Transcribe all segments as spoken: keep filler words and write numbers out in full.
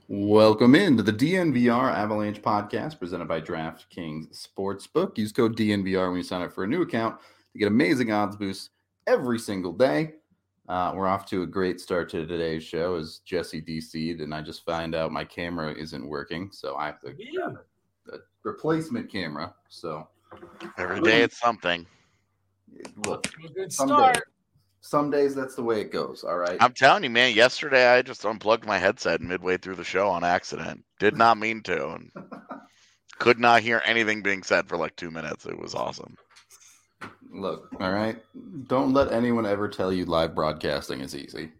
Welcome into the D N V R Avalanche podcast presented by DraftKings Sportsbook. Use code D N V R when you sign up for a new account to get amazing odds boosts every single day. Uh, we're off to a great start to today's show as Jesse D C'd, and I just find out my camera isn't working, so I have to grab a, a replacement camera. So every day it's something. Look, a good some start. Days, some days that's the way it goes. All right. I'm telling you, man. Yesterday I just unplugged my headset midway through the show on accident. Did not mean to, and could not hear anything being said for like two minutes. It was awesome. Look, all right. Don't let anyone ever tell you live broadcasting is easy.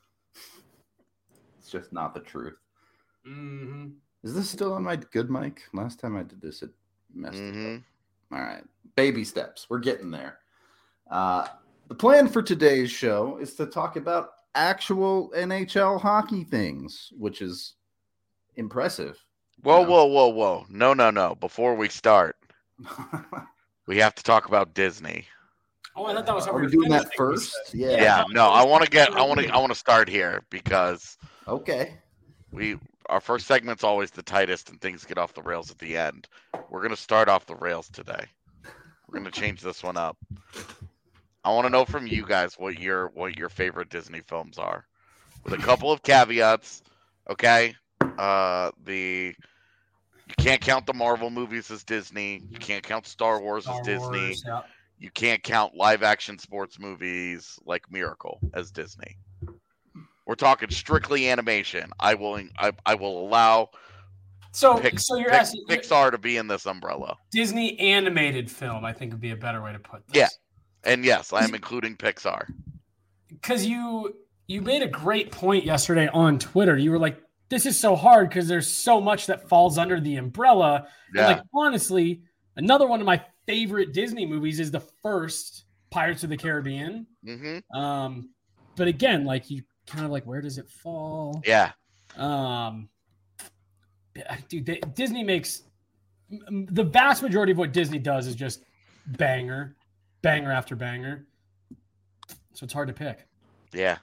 It's just not the truth. Mm-hmm. Is this still on my good mic? Last time I did this, it messed Mm-hmm. it up. All right. Baby steps. We're getting there. Uh, the plan for today's show is to talk about actual N H L hockey things, which is impressive. Whoa, you know? whoa, whoa, whoa! No, no, no! Before we start, we have to talk about Disney. Oh, I thought that was how Are we we were doing that finishing, first? we Yeah. Yeah, no, I want to get, I want to, I want to start here because Okay. we, our first segment's always the tightest, and things get off the rails at the end. We're gonna start off the rails today. We're gonna change this one up. I want to know from you guys what your what your favorite Disney films are, with a couple of caveats. Okay, uh, the you can't count the Marvel movies as Disney. You can't count Star Wars Star as Disney. Wars, yeah. You can't count live action sports movies like Miracle as Disney. We're talking strictly animation. I will I, I will allow So, Pix, so you're Pix, asking Pixar to be in this umbrella. Disney animated film, I think would be a better way to put this. Yeah. And yes, I am including Pixar. Because you you made a great point yesterday on Twitter. You were like, this is so hard because there's so much that falls under the umbrella. Yeah. And like, honestly, another one of my favorite Disney movies is the first Pirates of the Caribbean. Mm-hmm. Um, but again, like you kind of like, where does it fall? Yeah. Um, dude, they, Disney makes the vast majority of what Disney does is just banger, banger after banger. So it's hard to pick. Yeah.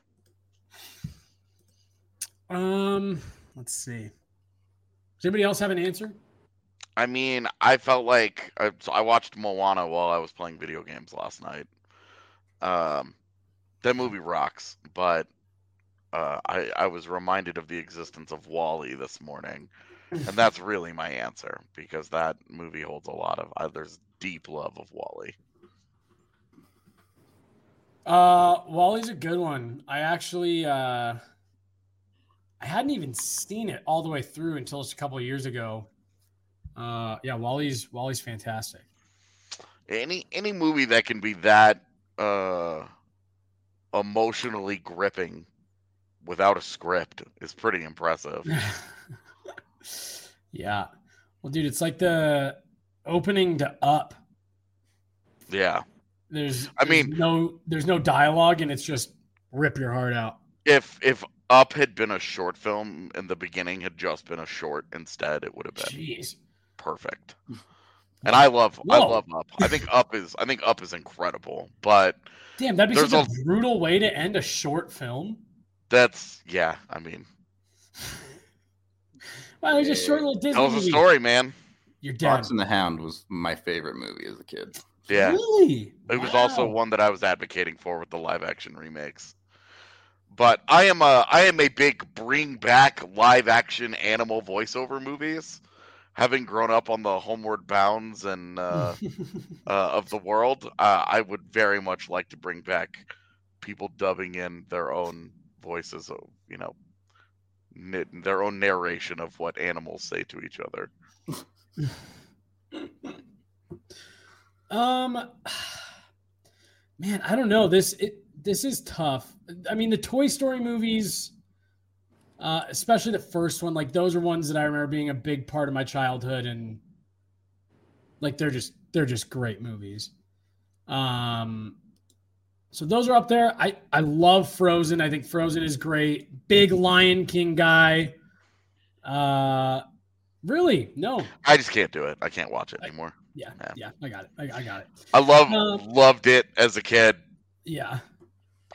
Um, let's see. Does anybody else have an answer? I mean, I felt like I, so I watched Moana while I was playing video games last night. Um, that movie rocks, but uh, I I was reminded of the existence of WALL-E this morning, and that's really my answer because that movie holds a lot of. Uh, there's deep love of WALL-E. Uh, Wally's a good one. I actually, uh, I hadn't even seen it all the way through until just a couple of years ago. Uh, yeah, Wally's Wally's fantastic. Any any movie that can be that uh, emotionally gripping without a script is pretty impressive. Yeah. Well, dude, it's like the opening to Up. Yeah. There's, I there's mean- no there's no dialogue, and it's just rip your heart out. If if Up had been a short film and the beginning had just been a short instead, it would have been Jeez. perfect. And I love I Whoa. love Up. I think Up is I think Up is incredible, but Damn, that'd be There's such a, a- brutal way to end a short film. that's yeah, I mean, Wow, it's a short little Disney tells a movie. story, man. You're dead. Fox and the Hound was my favorite movie as a kid. Yeah. Really? It was Wow. also one that I was advocating for with the live action remakes. But I am a I am a big bring back live action animal voiceover movies. Having grown up on the Homeward Bounds and uh, uh, of the world, uh, I would very much like to bring back people dubbing in their own voices, of, you know, n- their own narration of what animals say to each other. Um, man, I don't know. This it this is tough. I mean, the Toy Story movies, uh, especially the first one, like those are ones that I remember being a big part of my childhood, and like they're just they're just great movies. Um, so those are up there. I I love Frozen. I think Frozen is great. Big Lion King guy. Uh, really? No. I just can't do it. I can't watch it anymore. Yeah, Yeah. yeah, I got it. I, I got it. I love Um, loved it as a kid. Yeah.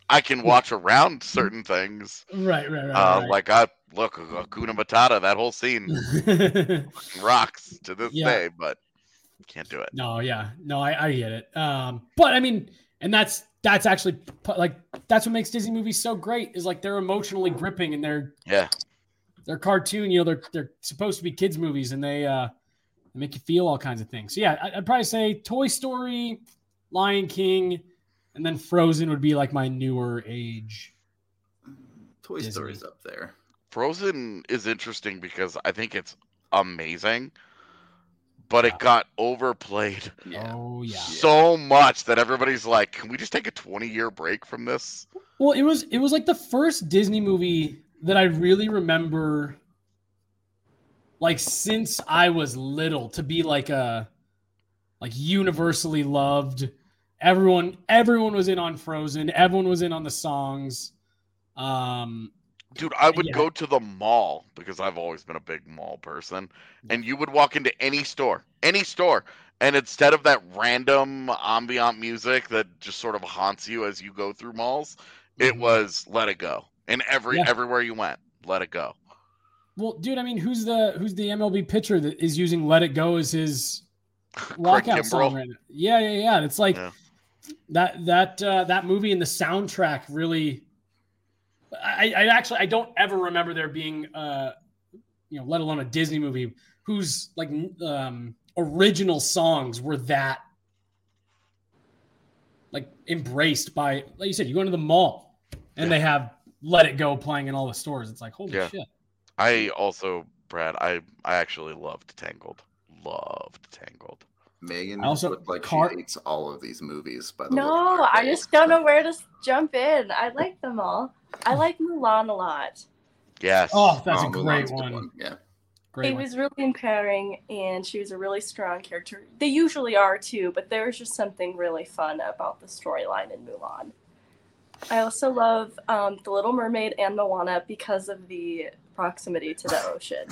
I can watch around certain things. Right, right, right. Uh, right. Like I look, Hakuna Matata, that whole scene rocks to this Yeah. day, but can't do it. No, yeah, no, I, I get it. Um, but I mean, and that's that's actually like that's what makes Disney movies so great is like they're emotionally gripping and they're Yeah, they're cartoon. You know, they're they're supposed to be kids movies and they uh they make you feel all kinds of things. So yeah, I, I'd probably say Toy Story, Lion King, and then Frozen would be like my newer age. Toy Disney. Story's up there. Frozen is interesting because I think it's amazing, but Yeah. it got overplayed Yeah. Oh yeah. so much that everybody's like, "Can we just take a twenty-year break from this?" Well, it was it was like the first Disney movie that I really remember, like since I was little, to be like a like universally loved. Everyone everyone was in on Frozen. Everyone was in on the songs. Um, Dude, I would Yeah. go to the mall because I've always been a big mall person, and you would walk into any store, any store, and instead of that random ambient music that just sort of haunts you as you go through malls, it Mhm. was "Let It Go," and every Yeah. everywhere you went, "Let It Go." well, dude, I mean, who's the who's the M L B pitcher that is using "Let It Go" as his Craig walkout song Kimbrell. right now? Yeah, yeah, yeah. And it's like Yeah. that that uh, that movie and the soundtrack really. I, I actually I don't ever remember there being uh you know let alone a Disney movie whose like um original songs were that like embraced by like you said you go into the mall and Yeah. they have Let It Go playing in all the stores. It's like holy Yeah. shit. I also, Brad, I I actually loved Tangled. Loved Tangled. Megan I also- looked like Car- she hates all of these movies. By the way, No, I just don't know where to s- jump in. I like them all. I like Mulan a lot. Yes. Oh, that's Oh, a Mulan's great good one. Yeah. Great It one. was really empowering, and she was a really strong character. They usually are too, but there was just something really fun about the storyline in Mulan. I also love um, The Little Mermaid and Moana because of the proximity to the ocean.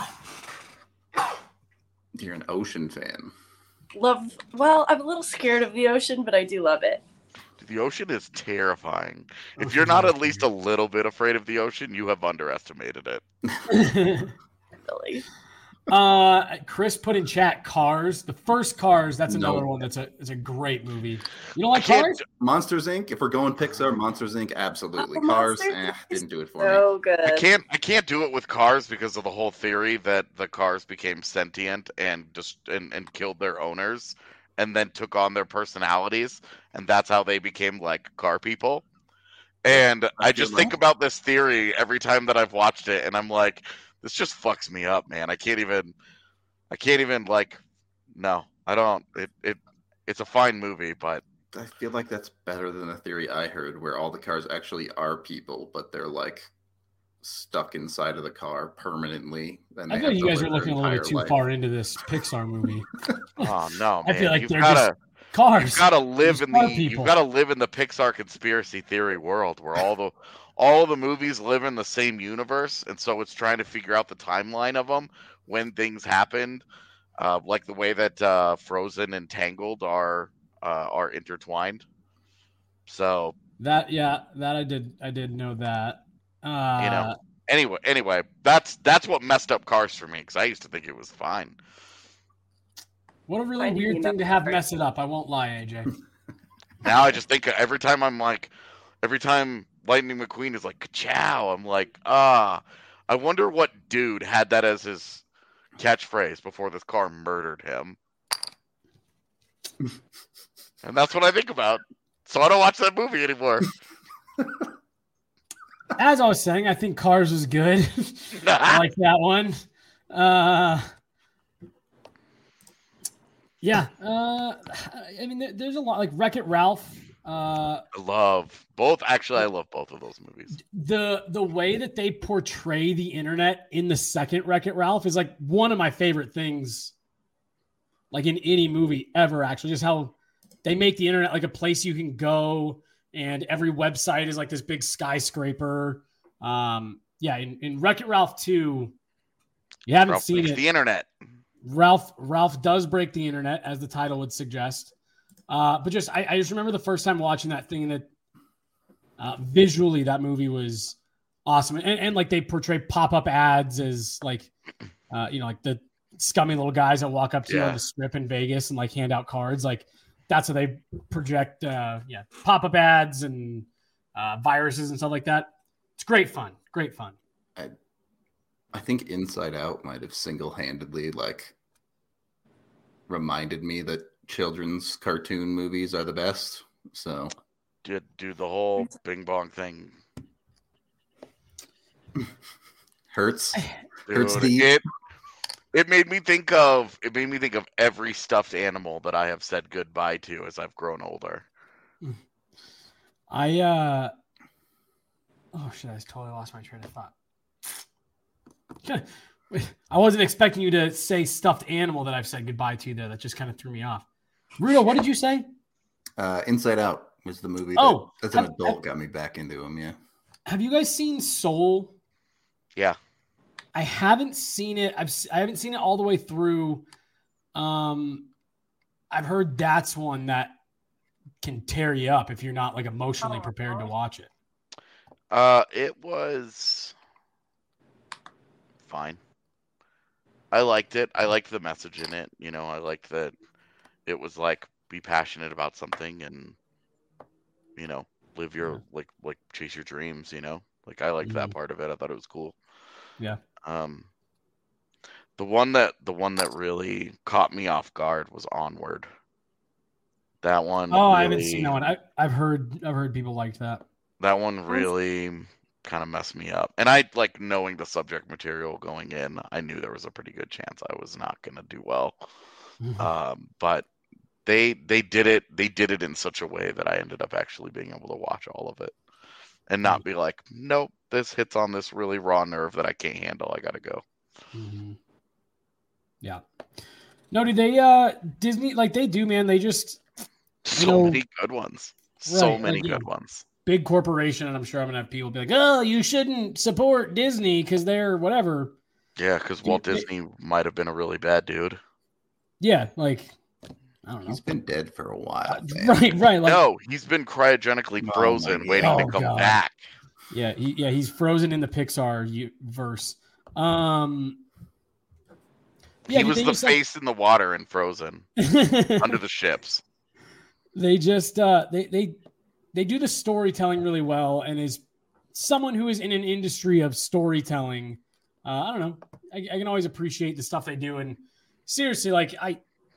You're an ocean fan. Love, well, I'm a little scared of the ocean, but I do love it. The ocean is terrifying. If Ocean's you're not really at least a little bit afraid of the ocean, you have underestimated it. Really. uh Chris put in chat Cars. The first Cars, that's No. another one that's a it's a great movie. You don't like I can't- Cars? Monsters Incorporated. If we're going Pixar, Monsters Incorporated, absolutely. Oh, Cars, Monsters eh, is didn't do it for me. So good. I can't I can't do it with cars because of the whole theory that the cars became sentient and just and, and killed their owners and then took on their personalities, and that's how they became like car people. And I, feel just think that. about this theory every time that I've watched it, and I'm like, this just fucks me up, man. I can't even I can't even like no, I don't it it it's a fine movie, but I feel like that's better than the theory I heard, where all the cars actually are people, but they're like stuck inside of the car permanently. And I they feel like have you to guys are live their looking a little bit entire too life. far into this Pixar movie. oh no, I man. feel like you've they're gotta just Cars. You've got to live There's in the car you've people. got to live in the Pixar conspiracy theory world where all the all the movies live in the same universe, and so it's trying to figure out the timeline of them when things happened, uh, like the way that uh, Frozen and Tangled are uh, are intertwined. So That yeah, that I did I did know that. Uh you know, anyway, anyway, that's that's what messed up Cars for me because I used to think it was fine. what a really I weird mean, thing to have mess it up. I won't lie, A J. Now I just think every time I'm like, every time Lightning McQueen is like, "Ka-chow," I'm like, ah, I wonder what dude had that as his catchphrase before this car murdered him. And that's what I think about. So I don't watch that movie anymore. As I was saying, I think Cars was good. I like that one. Uh Yeah, uh, I mean, there, there's a lot like Wreck-It Ralph. Uh, I love both. Actually, I love both of those movies. the the way that they portray the internet in the second Wreck-It Ralph is like one of my favorite things, like in any movie ever. Actually, just how they make the internet like a place you can go, and every website is like this big skyscraper. Um, yeah, in, in Wreck-It Ralph two, you haven't Ralph seen makes it. the internet. Ralph Ralph does break the internet, as the title would suggest. Uh, but just I, I just remember the first time watching that thing that Uh, visually, that movie was awesome. And, and like they portray pop-up ads as like, uh, you know, like the scummy little guys that walk up to you Yeah. on the strip in Vegas and like hand out cards. Like that's how they project, uh, yeah, pop-up ads and uh, viruses and stuff like that. It's great fun. Great fun. I, I think Inside Out might have single-handedly like reminded me that children's cartoon movies are the best. So Did do the whole Bing Bong thing. hurts. Dude, Hurts deep. it it made me think of it made me think of every stuffed animal that I have said goodbye to as I've grown older. I, uh, oh shit, I totally lost my train of thought. I wasn't expecting you to say stuffed animal that I've said goodbye to there. That just kind of threw me off. Rudo, what did you say? Uh, Inside Out was the movie that, Oh, as an have- adult, have- got me back into him. Yeah. Have you guys seen Soul? Yeah. I haven't seen it. I've s- I haven't seen it all the way through. Um, I've heard that's one that can tear you up if you're not like emotionally prepared to watch it. Uh, it was fine. I liked it. I liked the message in it. You know, I liked that it was like be passionate about something and you know live your Yeah. like like chase your dreams. You know, like I liked that Mhm. part of it. I thought it was cool. Yeah. Um, the one that the one that really caught me off guard was Onward. That one. Oh, I haven't really- seen that one. I, I've heard I've heard people liked that. That one really kind of messed me up. And I like knowing the subject material going in, I knew there was a pretty good chance I was not going to do well. Um, but they they did it they did it in such a way that I ended up actually being able to watch all of it and not be like, nope, this hits on this really raw nerve that I can't handle. I got to go. Mhm. Yeah. No, do they uh Disney like they do, man? They just So know- many good ones. So Right, many like, yeah. good ones. big corporation, and I'm sure I'm gonna have people be like, "Oh, you shouldn't support Disney because they're whatever." Yeah, because Dude, Walt they- Disney might have been a really bad dude. Yeah, like I don't know. He's been dead for a while. man. Right, right. Like no, he's been cryogenically Oh frozen, my waiting to God. come Oh, God. back. yeah, he, yeah, he's frozen in the Pixar u- verse. Um yeah, he was they the just, like- face in the water in Frozen under the ships. they just uh they they they do the storytelling really well, and is someone who is in an industry of storytelling. uh I don't know, I, I can always appreciate the stuff they do. And seriously, like I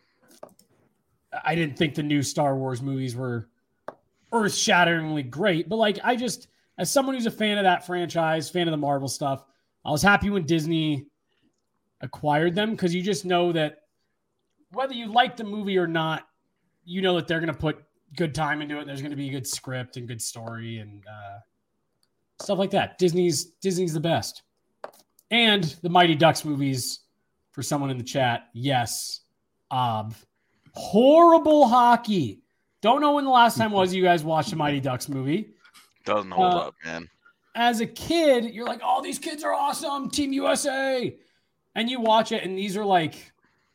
I didn't think the new Star Wars movies were earth-shatteringly great, but like I just, as someone who's a fan of that franchise, fan of the Marvel stuff, I was happy when Disney acquired them, because you just know that whether you like the movie or not, you know that they're going to put good time into it. There's going to be a good script and good story and uh, stuff like that. Disney's Disney's the best. And the Mighty Ducks movies, for someone in the chat, yes, ob. Horrible hockey. Don't know when the last time was you guys watched a Mighty Ducks movie. Doesn't hold Uh, up, man. As a kid, you're like, oh, these kids are awesome. Team U S A. And you watch it, and these are like,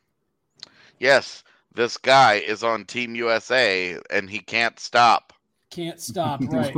Yes, this guy is on Team U S A and he can't stop. can't stop, right?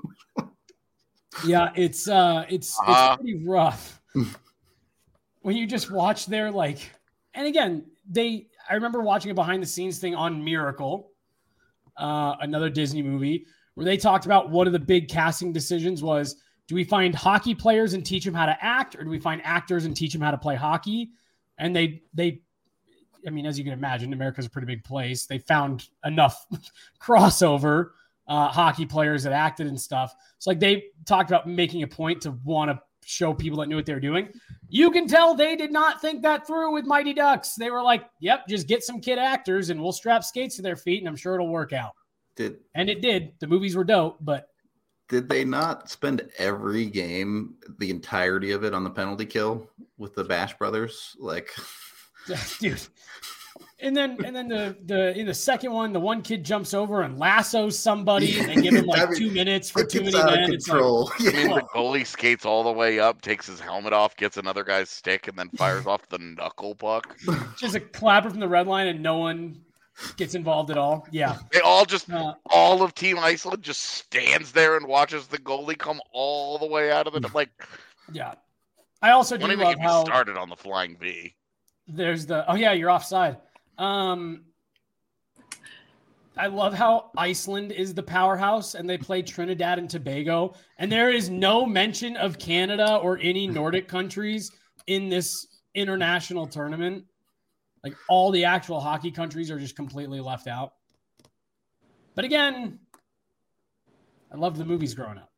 Yeah, it's uh it's Uh-huh. it's pretty rough. When you just watch their like, and again, they I remember watching a behind the scenes thing on Miracle, uh, another Disney movie, where they talked about one of the big casting decisions was, do we find hockey players and teach them how to act, or do we find actors and teach them how to play hockey? And they they I mean, as you can imagine, America's a pretty big place. They found enough crossover uh, hockey players that acted and stuff. So like they talked about making a point to want to show people that knew what they were doing. You can tell they did not think that through with Mighty Ducks. They were like, yep, just get some kid actors and we'll strap skates to their feet and I'm sure it'll work out. Did And it did. The movies were dope, but did they not spend every game, the entirety of it, on the penalty kill with the Bash Brothers? Like, dude. And then and then the the in the second one, the one kid jumps over and lassos somebody and they give him like I mean, two minutes for it too gets many out men. of It's like, control. I mean, Yeah. the goalie skates all the way up, takes his helmet off, gets another guy's stick, and then fires off the knuckle puck. just a clapper from the red line and no one gets involved at all. Yeah. They all just, Uh, all of Team Iceland just stands there and watches the goalie come all the way out of it. I'm like, yeah. I also do don't even love get me how started on the flying V. there's the, oh yeah, you're offside. Um, I love how Iceland is the powerhouse and they play Trinidad and Tobago. And there is no mention of Canada or any Nordic countries in this international tournament. Like all the actual hockey countries are just completely left out. But again, I loved the movies growing up.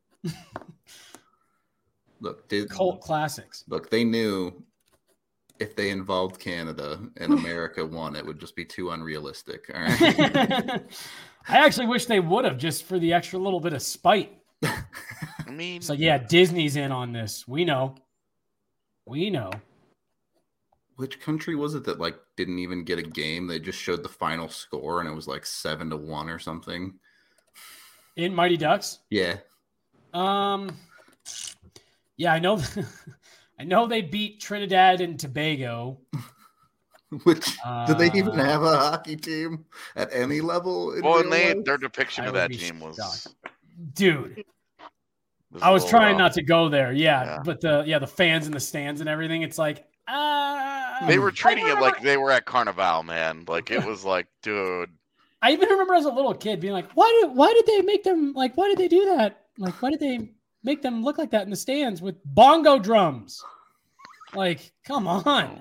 Look, did, Cult classics. look, they knew if they involved Canada and America won, it would just be too unrealistic. All right. I actually wish they would have, just for the extra little bit of spite. I mean, It's like, yeah, Disney's in on this. We know. We know. Which country was it that like didn't even get a game? They just showed the final score and it was like seven to one or something. In Mighty Ducks? Yeah. Um, yeah, I know. I know they beat Trinidad and Tobago. Which Uh, do they even have a hockey team at any level? in well, real and they, life? their depiction I of would that be team was, shocked. Dude, was I was a little trying rough. not to go there. Yeah, Yeah. but the yeah the fans in the stands and everything. It's like ah. They were treating I it remember- like they were at Carnival, man. Like it was like, dude, I even remember as a little kid being like, why did why did they make them like why did they do that? Like why did they make them look like that in the stands with bongo drums? Like, come on.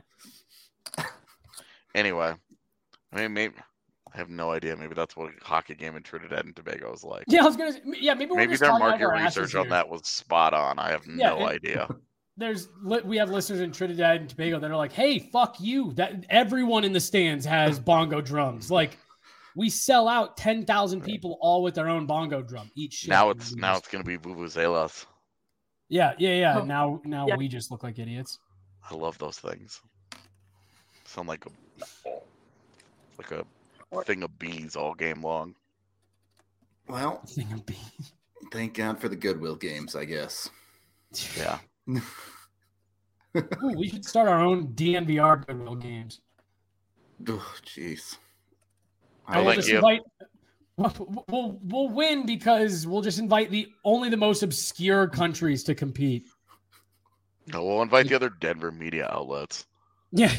anyway. I mean, maybe I have no idea. Maybe that's what a hockey game in Trinidad and Tobago is like. Yeah, I was gonna. Yeah, maybe we're Maybe just their talking out of market our asses research on here. that was spot on. I have Yeah, no it- idea. There's li- we have listeners in Trinidad and Tobago that are like, "Hey, fuck you!" That everyone in the stands has bongo drums. Like, we sell out ten thousand people all with their own bongo drum each. Shift. Now it's now it's gonna be vuvuzelas. yeah, yeah, yeah. Oh, Now, now yeah. we just look like idiots. I love those things. Sound like a like a thing of bees all game long. Well, Thing of bees. thank God for the Goodwill games, I guess. Yeah. Ooh, we should start our own D N V R Goodwill games. Oh, jeez. I I'll will let just you- invite. We'll, we'll we'll win because we'll just invite the only the most obscure countries to compete. No, we'll invite the other Denver media outlets. Yeah.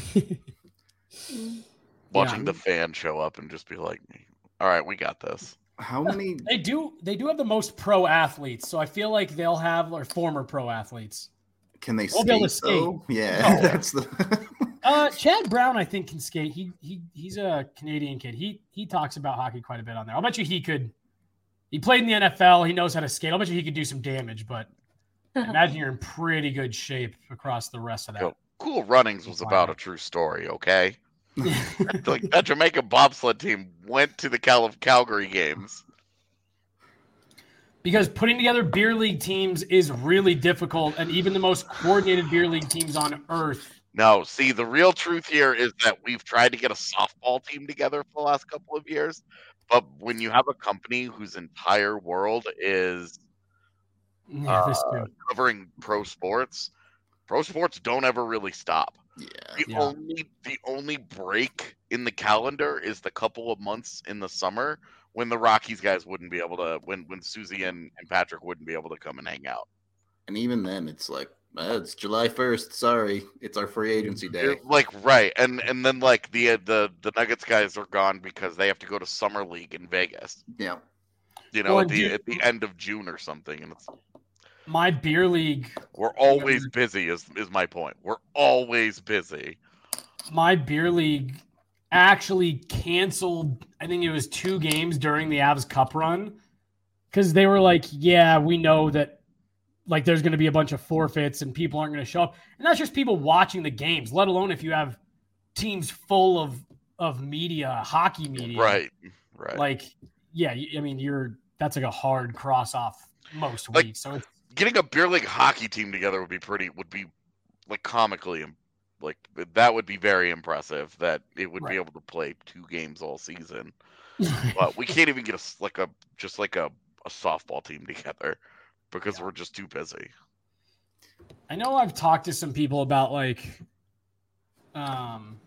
Watching Yeah. the fan show up and just be like, "All right, we got this." How many? They do. They do have the most pro athletes, so I feel like they'll have or former pro athletes. Can they We'll be able skate? to Though? Yeah, No. that's the. Uh, Chad Brown, I think, can skate. He he he's a Canadian kid. He he talks about hockey quite a bit on there. I'll bet you he could. He played in the N F L. He knows how to skate. I'll bet you he could do some damage. But I imagine you're in pretty good shape across the rest of that. Cool. Cool Runnings was Wow. about a true story, okay? Like that Jamaica bobsled team went to the Cal- Calgary games. Because putting together beer league teams is really difficult, and even the most coordinated beer league teams on earth. No, see, the real truth here is that we've tried to get a softball team together for the last couple of years, but when you have a company whose entire world is Yeah, this uh, too. covering pro sports, pro sports don't ever really stop. Yeah. The Yeah. only the only break in the calendar is the couple of months in the summer when the Rockies guys wouldn't be able to when when Susie and, and Patrick wouldn't be able to come and hang out. And even then, it's like, uh, it's July first. Sorry, it's our free agency day. It- like right, and and then like the uh, the the Nuggets guys are gone because they have to go to summer league in Vegas. Yeah. You know, Well, at the do- at the end of June or something, and it's My beer league, we're always busy. Is is my point? We're always busy. my beer league actually canceled. I think it was two games during the Avs Cup run because they were like, "Yeah, we know that." Like there's going to be a bunch of forfeits and people aren't going to show up. And that's just people watching the games, let alone if you have teams full of of media, hockey media. Right, right. Like, yeah, you- I mean, you're that's like a hard cross off most Like- weeks. So it's, Getting a beer league hockey team together would be pretty would be like comically im- like that would be very impressive that it would Right. be able to play two games all season. But we can't even get a s- like a just like a, a softball team together because we're just too busy. I know I've talked to some people about like, um,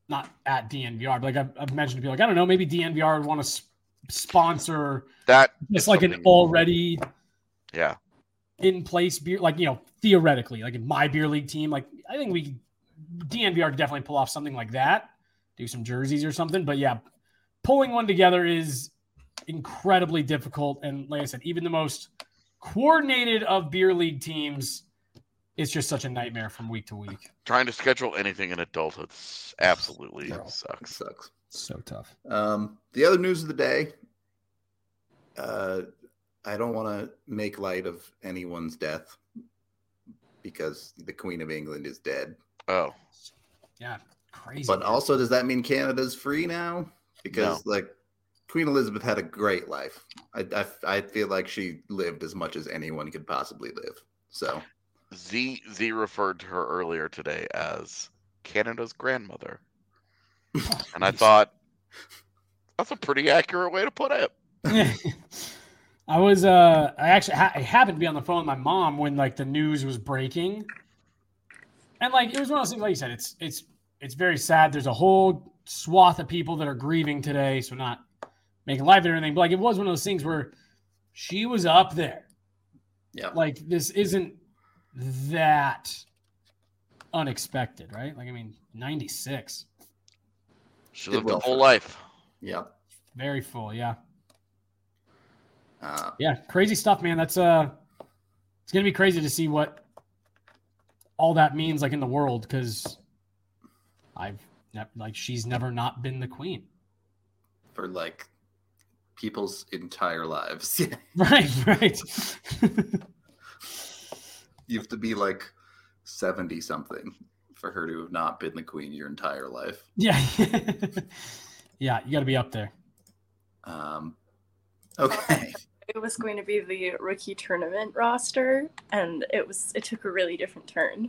not at D N V R, but like I've, I've mentioned to people, like, I don't know, maybe D N V R would want to sp- sponsor That just is like an something- already Yeah. in place beer, like, you know, theoretically, like in my beer league team, like I think we D N V R could definitely pull off something like that, do some jerseys or something. But yeah, pulling one together is incredibly difficult. And like I said, even the most coordinated of beer league teams, it's just such a nightmare from week to week. Trying to schedule anything in adulthood s- absolutely Bro. sucks. Sucks. So tough. Um, the other news of the day. Uh, I don't want to make light of anyone's death because the Queen of England is dead. Oh, Yeah, crazy. But man. also, does that mean Canada's free now? Because like Queen Elizabeth had a great life. I, I I feel like she lived as much as anyone could possibly live. So Z Z referred to her earlier today as Canada's grandmother, and I thought that's a pretty accurate way to put it. I was uh I actually ha- I happened to be on the phone with my mom when like the news was breaking, and like it was one of those things. Like you said, it's it's it's very sad. There's a whole swath of people that are grieving today, so not making light of it or anything. But like it was one of those things where she was up there. yeah, Like this isn't that unexpected, right? Like I mean, ninety-six, She Did lived well a whole for- life. yeah. very full. Yeah, Uh, yeah, crazy stuff, man. That's uh, it's gonna be crazy to see what all that means, like in the world, because I've ne- like she's never not been the queen. for like people's entire lives. Yeah, Right, right. you have to be like seventy something for her to have not been the queen your entire life. Yeah, yeah, you got to be up there. Um, okay. It was going to be the rookie tournament roster, and it was it took a really different turn.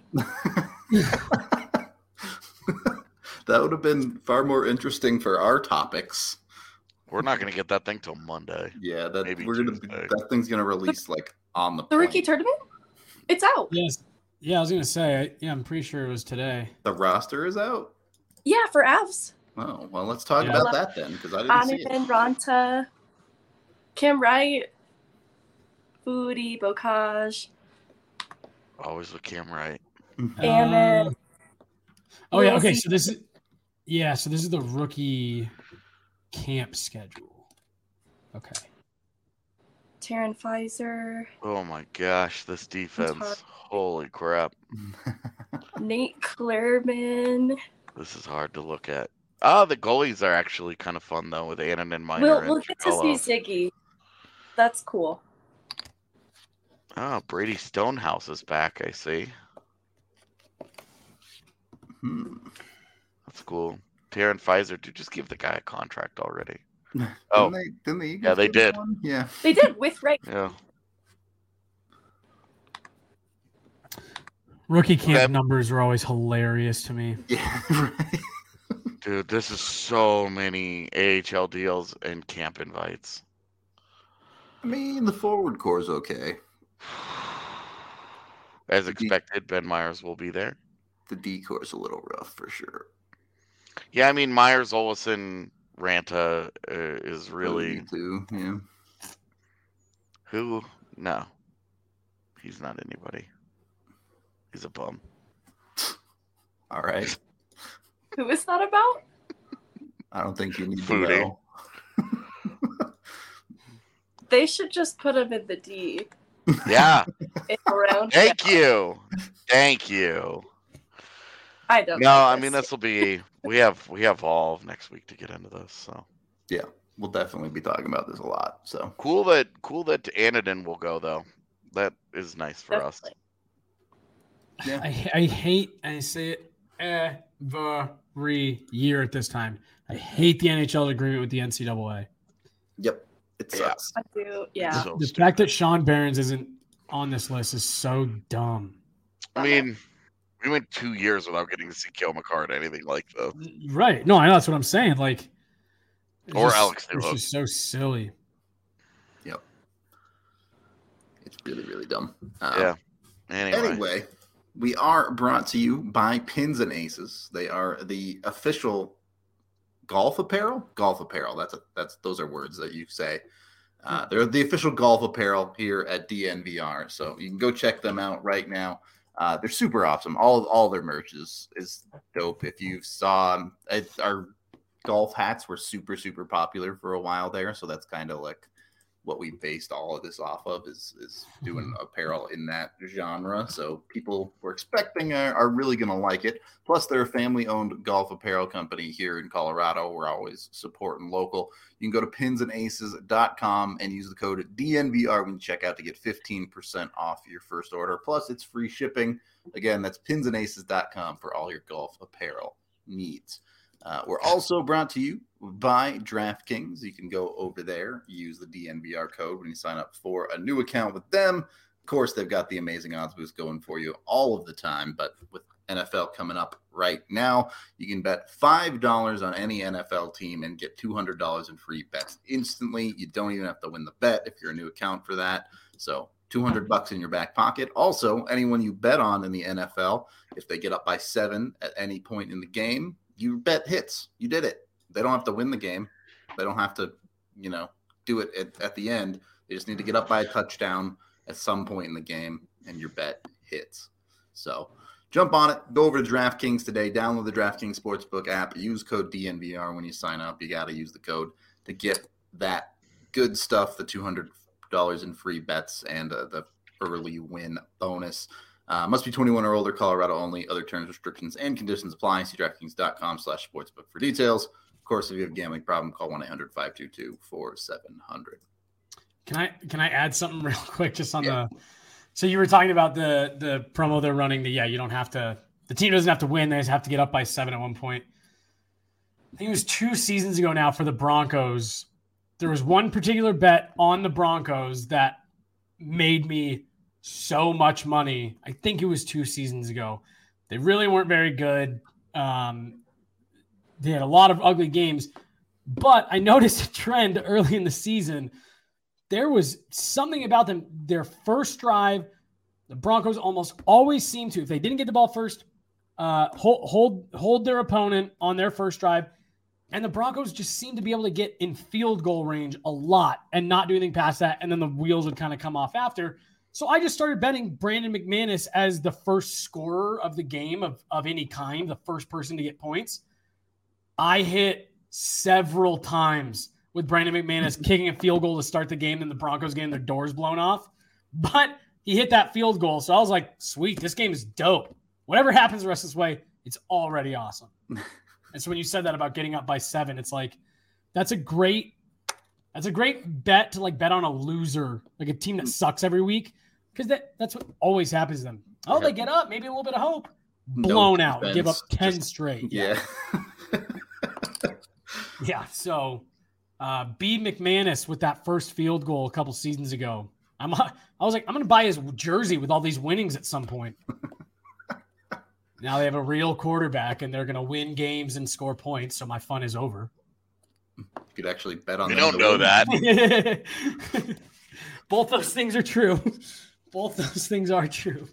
That would have been far more interesting for our topics. We're not going to get that thing till Monday. Yeah, that Maybe we're gonna be, Tuesday. that thing's gonna release like on the The rookie plane. tournament? It's out. Yes, yeah, I was gonna say, I, yeah, I'm pretty sure it was today. The roster is out. Yeah, for Avs. Oh well, let's talk Yeah. about that then because I didn't see it. Anakin, Ranta, Cam Wright, Foodie, Bocage. Always with Cam Wright. And then- Uh, oh yeah, okay. Rosie. So this is yeah. So this is the rookie camp schedule. Okay. Taryn Pfizer, Oh my gosh, this defense. hard. Holy crap. Nate Clairman. This is hard to look at. Ah, the goalies are actually kind of fun though with Annan and Minor. We'll, and we'll get to see Trudella. Ziggy. That's cool. Oh, Brady Stonehouse is back, I see. Hmm. That's cool. Taryn Pfizer, dude, just give the guy a contract already. Didn't Oh, they, didn't the Eagles yeah, they give him did. one? Yeah. They did with Ray. yeah. Rookie camp Okay. numbers are always hilarious to me. Yeah. Right. Dude, this is so many A H L deals and camp invites. I mean, the forward core is okay. As The D- expected, Ben Myers will be there. The D core is a little rough for sure. Yeah, I mean Myers, Olsen, Ranta uh, is really too. Yeah. who? No, he's not anybody. He's a bum. All right. Who is that about? I don't think you need Foodie. to know. They should just put him in the D. Yeah, In around. thank you, thank you. I don't No, know. I mean this will be. We have we have all of next week to get into this. So We'll definitely be talking about this a lot. So cool that cool that Anadin will go though. That is nice for us. Definitely. I, I hate, I say it every year at this time. I hate the N H L agreement with the N C double A. yep, it Yeah. sucks. I do. Yeah. So The stupid. fact that Sean Barons isn't on this list is so dumb. I mean, we went two years without getting to see Kale McCart or anything like this. Right. No, I know that's what I'm saying. Like, it's Or just- Alex It's Newhook. just so silly. It's really, really dumb. Um, Yeah. Anyway, Anyway, we are brought to you by Pins and Aces. They are the official golf apparel. Golf apparel. That's a, that's those are words that you say. Uh, they're the official golf apparel here at D N V R. So you can go check them out right now. Uh, they're super awesome. All all their merch is, is dope. If you saw um, it, our golf hats were super, super popular for a while there. So that's kind of like what we based all of this off of is, is doing apparel in that genre. So people we're expecting are, are really going to like it. Plus, they're a family-owned golf apparel company here in Colorado. We're always supporting local. You can go to pins and aces dot com and use the code D N V R when you check out to get fifteen percent off your first order. Plus, it's free shipping. Again, that's pins and aces dot com for all your golf apparel needs. Uh, we're also brought to you by DraftKings. You can go over there, use the D N V R code when you sign up for a new account with them. Of course, they've got the amazing odds boost going for you all of the time, but with N F L coming up right now, you can bet five dollars on any N F L team and get two hundred dollars in free bets instantly. You don't even have to win the bet if you're a new account for that. So two hundred bucks in your back pocket. Also, anyone you bet on in the N F L, if they get up by seven at any point in the game, you bet hits. You did it. They don't have to win the game. They don't have to, you know, do it at, at the end. They just need to get up by a touchdown at some point in the game, and your bet hits. So jump on it. Go over to DraftKings today. Download the DraftKings Sportsbook app. Use code D N V R when you sign up. You got to use the code to get that good stuff, the two hundred dollars in free bets and uh, the early win bonus. Uh, must be twenty-one or older, Colorado only. Other terms, restrictions, and conditions apply. See DraftKings.com slash sportsbook for details. Of course, if you have a gambling problem, call one eight hundred five two two four seven zero zero. Can I can I add something real quick just on yeah. the – so you were talking about the the promo they're running. The Yeah, you don't have to – the team doesn't have to win. They just have to get up by seven at one point. I think it was two seasons ago now for the Broncos. There was one particular bet on the Broncos that made me – so much money. I think it was two seasons ago. They really weren't very good. Um, they had a lot of ugly games, but I noticed a trend early in the season. There was something about them. Their first drive, the Broncos almost always seem to, if they didn't get the ball first, uh, hold, hold, hold their opponent on their first drive. And the Broncos just seemed to be able to get in field goal range a lot and not do anything past that. And then the wheels would kind of come off after. So I just started betting Brandon McManus as the first scorer of the game of, of any kind, the first person to get points. I hit several times with Brandon McManus kicking a field goal to start the game, and the Broncos getting their doors blown off. But he hit that field goal, so I was like, sweet, this game is dope. Whatever happens the rest of this way, it's already awesome. And so when you said that about getting up by seven, it's like, that's a great that's a great bet to like bet on a loser, like a team that sucks every week. Because that, that's what always happens to them. Oh, they get up, maybe a little bit of hope. Blown no out, defense, give up ten just, straight. Yeah. yeah, so uh, B. McManus with that first field goal a couple seasons ago. I'm, I was like, I'm going to buy his jersey with all these winnings at some point. Now they have a real quarterback, and they're going to win games and score points, so my fun is over. You could actually bet on We them don't know win. that. Both those things are true. Both those things are true.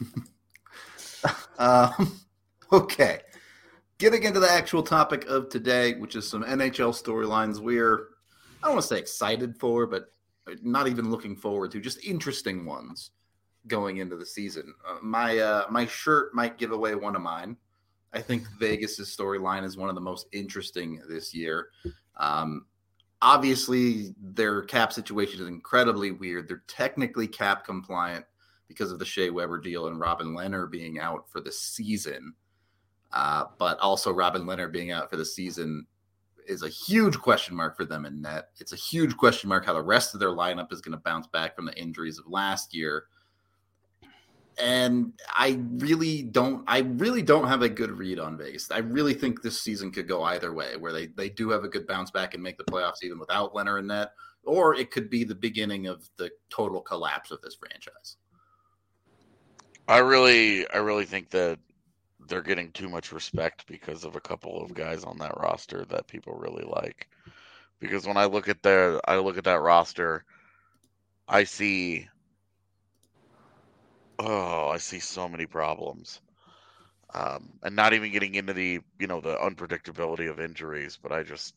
um, okay. Getting into the actual topic of today, which is some N H L storylines we're, I don't want to say excited for, but not even looking forward to, just interesting ones going into the season. Uh, my uh, my shirt might give away one of mine. I think Vegas's storyline is one of the most interesting this year. Um, Obviously, their cap situation is incredibly weird. They're technically cap compliant because of the Shea Weber deal and Robin Lehner being out for the season. Uh, but also Robin Lehner being out for the season is a huge question mark for them in net. It's a huge question mark how the rest of their lineup is going to bounce back from the injuries of last year. And I really don't I really don't have a good read on Vegas. I really think this season could go either way, where they, they do have a good bounce back and make the playoffs even without Leonard in net, or it could be the beginning of the total collapse of this franchise. I really I really think that they're getting too much respect because of a couple of guys on that roster that people really like. Because when I look at their I look at that roster, I see Oh, I see so many problems. Um, and not even getting into the, you know, the unpredictability of injuries, but I just,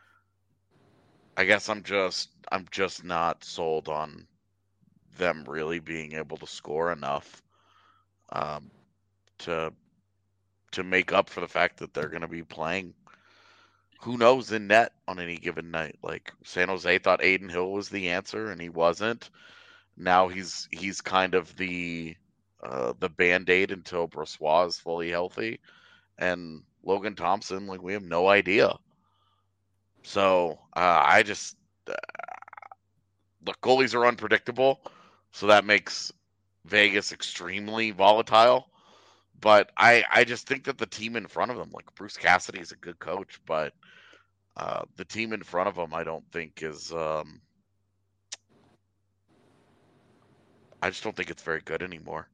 I guess I'm just, I'm just not sold on them really being able to score enough um, to to make up for the fact that they're going to be playing. Who knows in net on any given night? Like San Jose thought Aiden Hill was the answer, and he wasn't. Now he's he's kind of the uh, the band aid until Brossois is fully healthy, and Logan Thompson, like we have no idea. So uh, I just uh, look, goalies are unpredictable, so that makes Vegas extremely volatile. But I I just think that the team in front of them, like Bruce Cassidy, is a good coach, but uh, the team in front of them, I don't think is. Um, I just don't think it's very good anymore.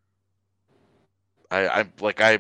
I I like I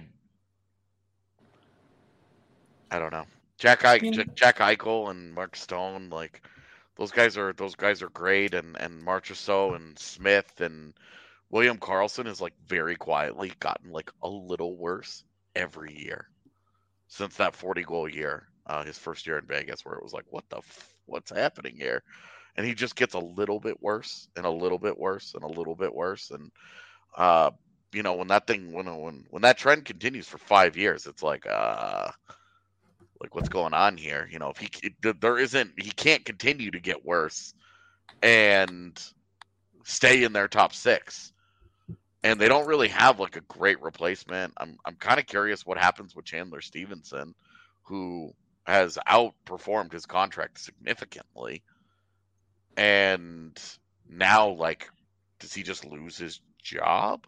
I don't know. Jack I, Jack Eichel and Mark Stone, like those guys are those guys are great, and and Marchessault and Smith and William Karlsson has like very quietly gotten like a little worse every year since that forty goal year, uh, his first year in Vegas, where it was like, what the f- what's happening here? And he just gets a little bit worse and a little bit worse and a little bit worse, and uh, you know when that thing when when when that trend continues for five years, it's like uh like what's going on here? You know, if he it, there isn't he can't continue to get worse and stay in their top six. And they don't really have like a great replacement. I'm I'm kind of curious what happens with Chandler Stevenson, who has outperformed his contract significantly. And now, like, does he just lose his job?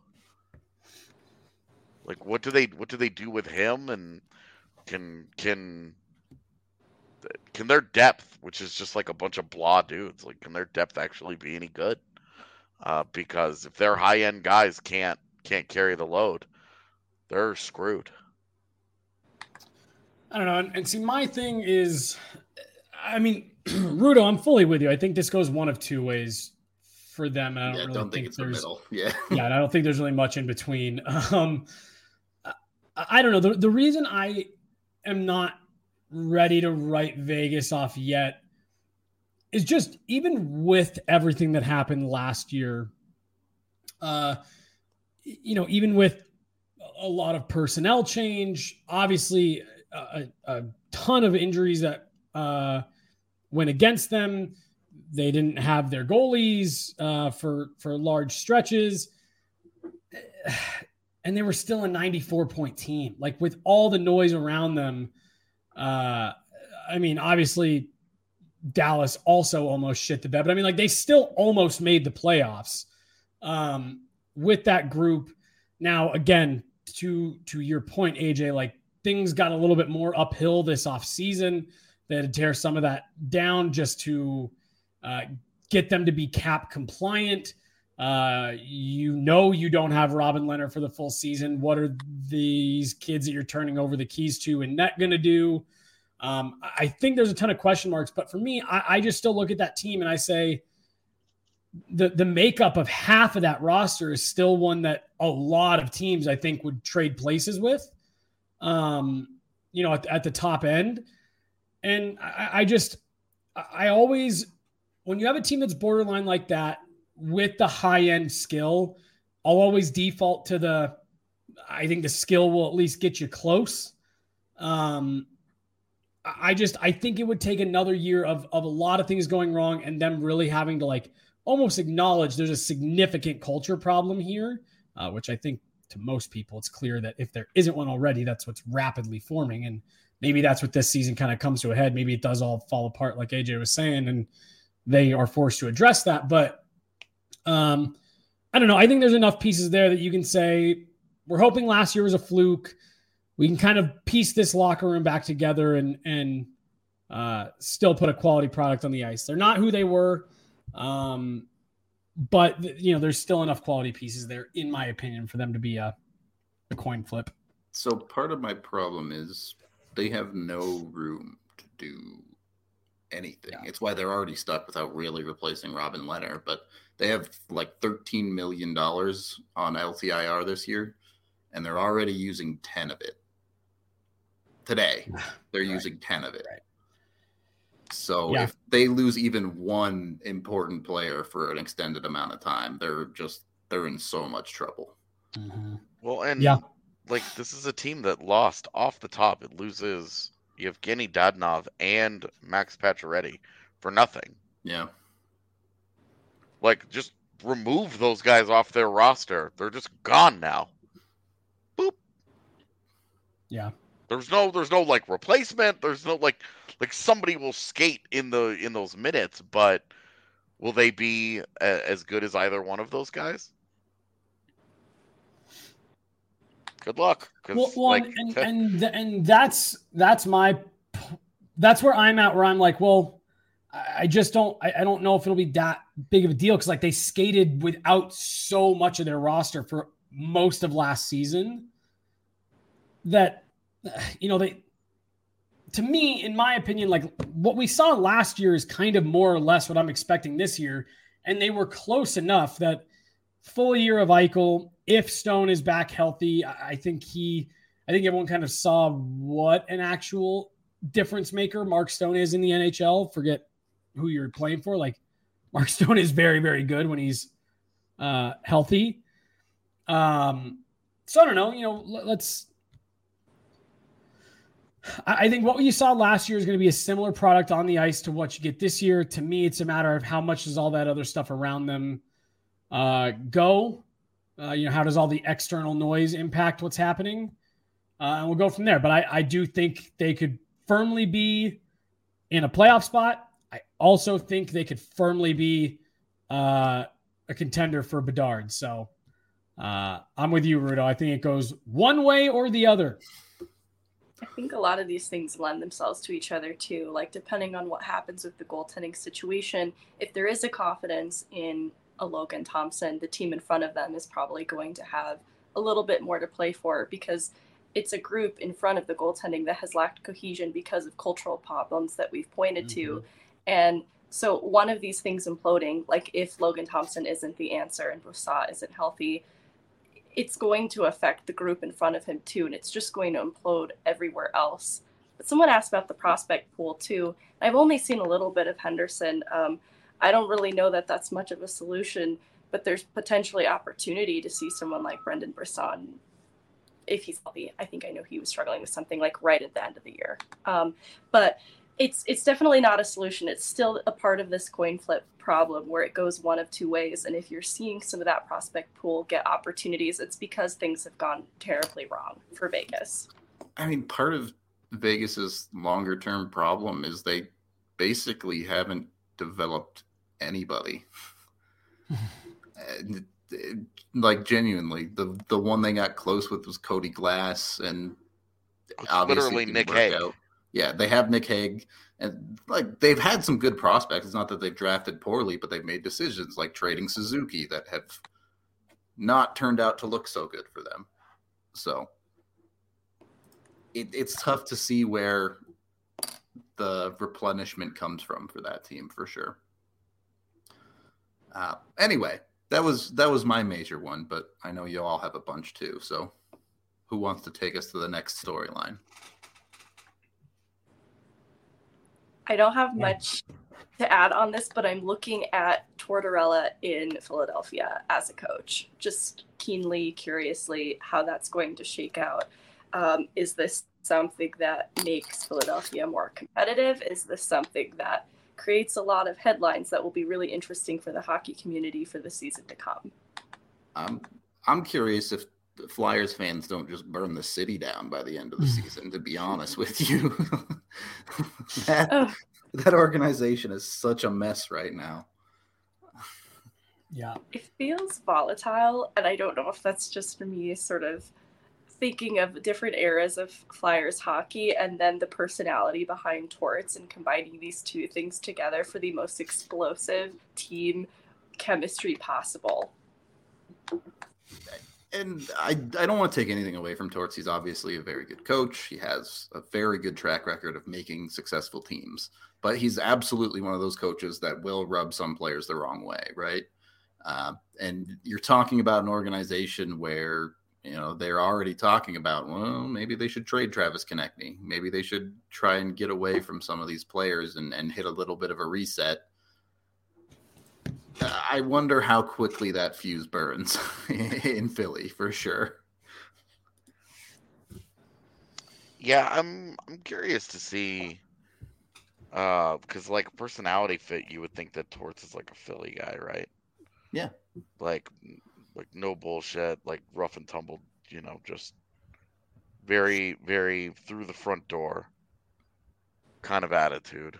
Like, what do they what do they do with him? And can can can their depth, which is just like a bunch of blah dudes, like can their depth actually be any good? Uh, because if their high end guys can't can't carry the load, they're screwed. I don't know. And, and see, my thing is, I mean, Rudo, I'm fully with you. I think this goes one of two ways for them. And I don't yeah, really don't think, think it's the there's, middle. Yeah. yeah, and I don't think there's really much in between. Um, I, I don't know. The, the reason I am not ready to write Vegas off yet is just even with everything that happened last year, uh, you know, even with a lot of personnel change, obviously a, a ton of injuries that uh, went against them. They didn't have their goalies uh, for for large stretches, and they were still a ninety-four point team. Like with all the noise around them, uh, I mean, obviously Dallas also almost shit the bed, but I mean, like they still almost made the playoffs um, with that group. Now, again, to to your point, A J, like things got a little bit more uphill this offseason. They had to tear some of that down just to uh, get them to be cap compliant. Uh, you know you don't have Robin Leonard for the full season. What are these kids that you're turning over the keys to in net going to do? Um, I think there's a ton of question marks, but for me, I, I just still look at that team and I say the the makeup of half of that roster is still one that a lot of teams I think would trade places with, um, you know, at, at the top end. And I, I just, I always, when you have a team that's borderline like that with the high end skill, I'll always default to the, I think the skill will at least get you close. Um, I just, I think it would take another year of, of a lot of things going wrong and them really having to like almost acknowledge there's a significant culture problem here, uh, which I think to most people, it's clear that if there isn't one already, that's what's rapidly forming. And maybe that's what this season kind of comes to a head. Maybe it does all fall apart like A J was saying, and they are forced to address that. But um, I don't know. I think there's enough pieces there that you can say, we're hoping last year was a fluke. We can kind of piece this locker room back together and and uh, still put a quality product on the ice. They're not who they were, um, but you know there's still enough quality pieces there, in my opinion, for them to be a, a coin flip. So part of my problem is they have no room to do anything. Yeah. It's why they're already stuck without really replacing Robin Leonard. But they have like thirteen million dollars on L T I R this year, and they're already using ten of it. Today, they're Right. using ten of it. Right. So Yeah. if they lose even one important player for an extended amount of time, they're just they're in so much trouble. Mm-hmm. Well, and Yeah. like this is a team that lost off the top. It loses Yevgeny Dadonov and Max Pacioretty for nothing. Yeah. Like, just remove those guys off their roster. They're just gone now. Boop. Yeah. There's no, there's no like replacement. There's no like, like somebody will skate in the in those minutes, but will they be a, as good as either one of those guys? Good luck. 'Cause, Well, well like, and and and that's that's my that's where I'm at. Where I'm like, well, I just don't I, I don't know if it'll be that big of a deal because like they skated without so much of their roster for most of last season that you know they to me, in my opinion, like what we saw last year is kind of more or less what I'm expecting this year, and they were close enough that full year of Eichel. If Stone is back healthy, I think he, I think everyone kind of saw what an actual difference maker Mark Stone is in the N H L. Forget who you're playing for. Like Mark Stone is very, very good when he's uh, healthy. Um, so I don't know, you know, let's, I think what you saw last year is going to be a similar product on the ice to what you get this year. To me, it's a matter of how much does all that other stuff around them uh, go. Uh, you know, how does all the external noise impact what's happening? Uh, and we'll go from there. But I, I do think they could firmly be in a playoff spot. I also think they could firmly be uh, a contender for Bedard. So uh, I'm with you, Rudo. I think it goes one way or the other. I think a lot of these things lend themselves to each other too. Like depending on what happens with the goaltending situation, if there is a confidence in a Logan Thompson, the team in front of them is probably going to have a little bit more to play for because it's a group in front of the goaltending that has lacked cohesion because of cultural problems that we've pointed mm-hmm. to. And so one of these things imploding, like if Logan Thompson isn't the answer and Brossoit isn't healthy, it's going to affect the group in front of him too. And it's just going to implode everywhere else. But someone asked about the prospect pool too. I've only seen a little bit of Henderson. Um, I don't really know that that's much of a solution, but there's potentially opportunity to see someone like Brendan Brisson if he's healthy. I think I know he was struggling with something like right at the end of the year. Um, but it's it's definitely not a solution. It's still a part of this coin flip problem where it goes one of two ways. And if you're seeing some of that prospect pool get opportunities, it's because things have gone terribly wrong for Vegas. I mean, part of Vegas's longer term problem is they basically haven't developed anybody. And, like genuinely, the the one they got close with was Cody Glass, and it's obviously literally Nick Hague. Out. Yeah, they have Nick Hague, and like they've had some good prospects. It's not that they've drafted poorly, but they've made decisions like trading Suzuki that have not turned out to look so good for them. So it, it's tough to see where the replenishment comes from for that team for sure. Uh, anyway, that was that was my major one, but I know you all have a bunch too. So who wants to take us to the next storyline? I don't have much to add on this, but I'm looking at Tortorella in Philadelphia as a coach, just keenly, curiously how that's going to shake out. Um, is this something that makes Philadelphia more competitive? Is this something that creates a lot of headlines that will be really interesting for the hockey community for the season to come? Um, I'm curious if the Flyers fans don't just burn the city down by the end of the season, to be honest with you. that, oh. that organization is such a mess right now. Yeah. It feels volatile, and I don't know if that's just me sort of thinking of different eras of Flyers hockey and then the personality behind Torts and combining these two things together for the most explosive team chemistry possible. And I, I don't want to take anything away from Torts. He's obviously a very good coach. He has a very good track record of making successful teams. But he's absolutely one of those coaches that will rub some players the wrong way, right? Uh, and you're talking about an organization where, you know, they're already talking about, well, maybe they should trade Travis Konechny. Maybe they should try and get away from some of these players and, and hit a little bit of a reset. I wonder how quickly that fuse burns in Philly, for sure. Yeah, I'm I'm curious to see, uh, because like personality fit, you would think that Torts is like a Philly guy, right? Yeah, like like no bullshit, like rough and tumble, you know, just very very through the front door kind of attitude.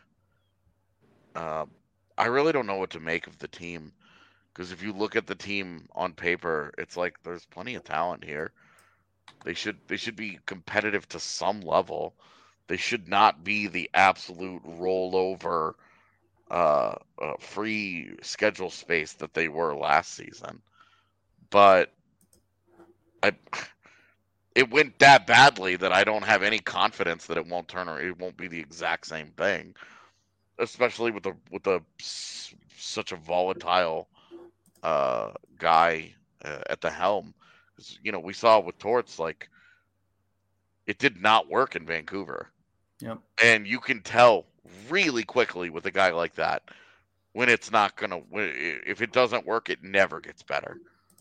Um, I really don't know what to make of the team, because if you look at the team on paper, it's like there's plenty of talent here. They should they should be competitive to some level. They should not be the absolute rollover uh, uh free schedule space that they were last season. But I it went that badly that I don't have any confidence that it won't turn or it won't be the exact same thing, especially with the with the such a volatile uh guy uh, at the helm. You know, we saw with Torts, like, it did not work in Vancouver. Yep. And you can tell really quickly with a guy like that when it's not gonna. If it doesn't work, it never gets better.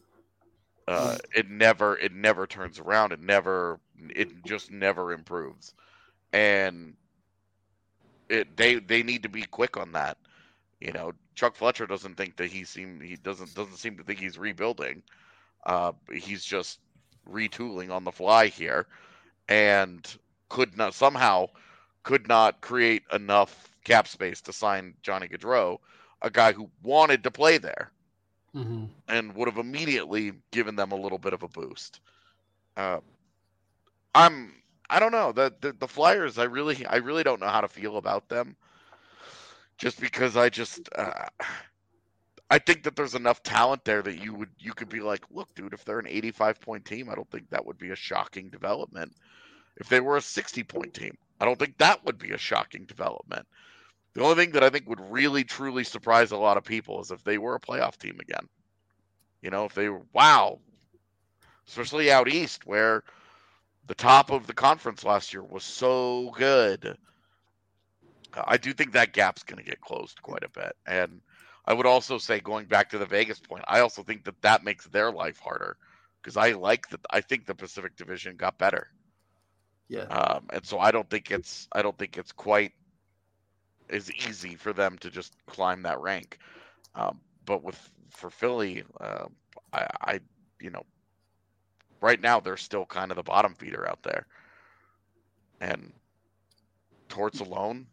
Uh, it never, it never turns around. It never, it just never improves. And it they they need to be quick on that. You know, Chuck Fletcher doesn't think that he seem he doesn't doesn't seem to think he's rebuilding. Uh, he's just retooling on the fly here, and could not somehow could not create enough cap space to sign Johnny Gaudreau, a guy who wanted to play there, mm-hmm. and would have immediately given them a little bit of a boost. Uh, I'm I don't know the, the the Flyers. I really I really don't know how to feel about them, just because I just. Uh, I think that there's enough talent there that you would you could be like, look, dude, if they're an eighty-five point team, I don't think that would be a shocking development. If they were a sixty point team, I don't think that would be a shocking development. The only thing that I think would really truly surprise a lot of people is if they were a playoff team again. You know, if they were, wow, especially out east where the top of the conference last year was so good. I do think that gap's going to get closed quite a bit. And I would also say, going back to the Vegas point, I also think that that makes their life harder, because I like that. I think the Pacific Division got better. Yeah. Um, and so I don't think it's I don't think it's quite as easy for them to just climb that rank. Um, but with for Philly, uh, I, I you know, right now they're still kind of the bottom feeder out there, and Torts alone.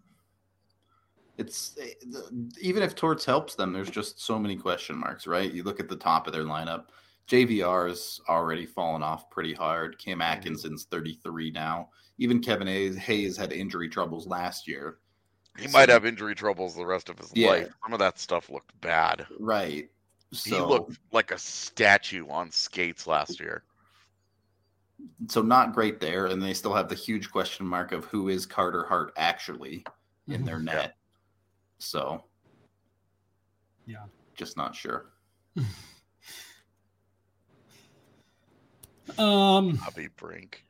It's even if Torts helps them, there's just so many question marks, right? You look at the top of their lineup. J V R's already fallen off pretty hard. Cam Atkinson's thirty-three now. Even Kevin Hayes had injury troubles last year. He so, might have injury troubles the rest of his yeah. life. Some of that stuff looked bad. Right. So, he looked like a statue on skates last year. So not great there. And they still have the huge question mark of who is Carter Hart actually in their net. Yeah. So, yeah, just not sure. um, Bobby Brink.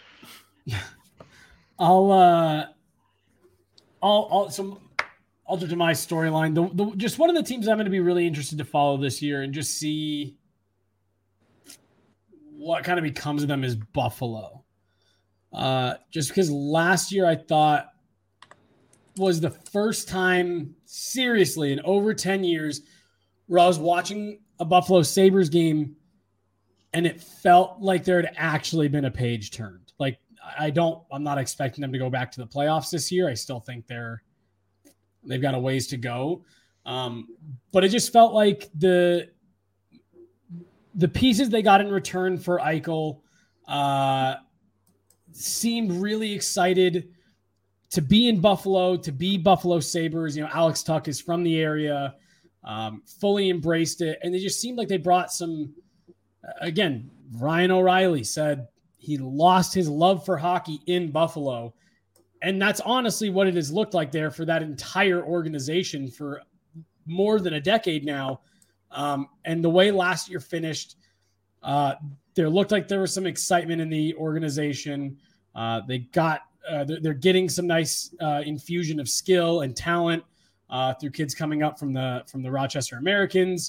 I'll, uh, I'll, I'll, so I'll do to my storyline. The, the, just one of the teams I'm going to be really interested to follow this year and just see what kind of becomes of them is Buffalo. Uh, just because last year I thought was the first time seriously in over ten years where I was watching a Buffalo Sabres game and it felt like there had actually been a page turned. Like, I don't, I'm not expecting them to go back to the playoffs this year. I still think they're, they've got a ways to go. Um, but it just felt like the, the pieces they got in return for Eichel uh, seemed really excited to be in Buffalo, to be Buffalo Sabres. You know, Alex Tuck is from the area, um, fully embraced it. And they just seemed like they brought some, again, Ryan O'Reilly said he lost his love for hockey in Buffalo. And that's honestly what it has looked like there for that entire organization for more than a decade now. Um, and the way last year finished, uh, there looked like there was some excitement in the organization. Uh, they got, uh, they're, they're getting some nice uh, infusion of skill and talent uh, through kids coming up from the from the Rochester Americans.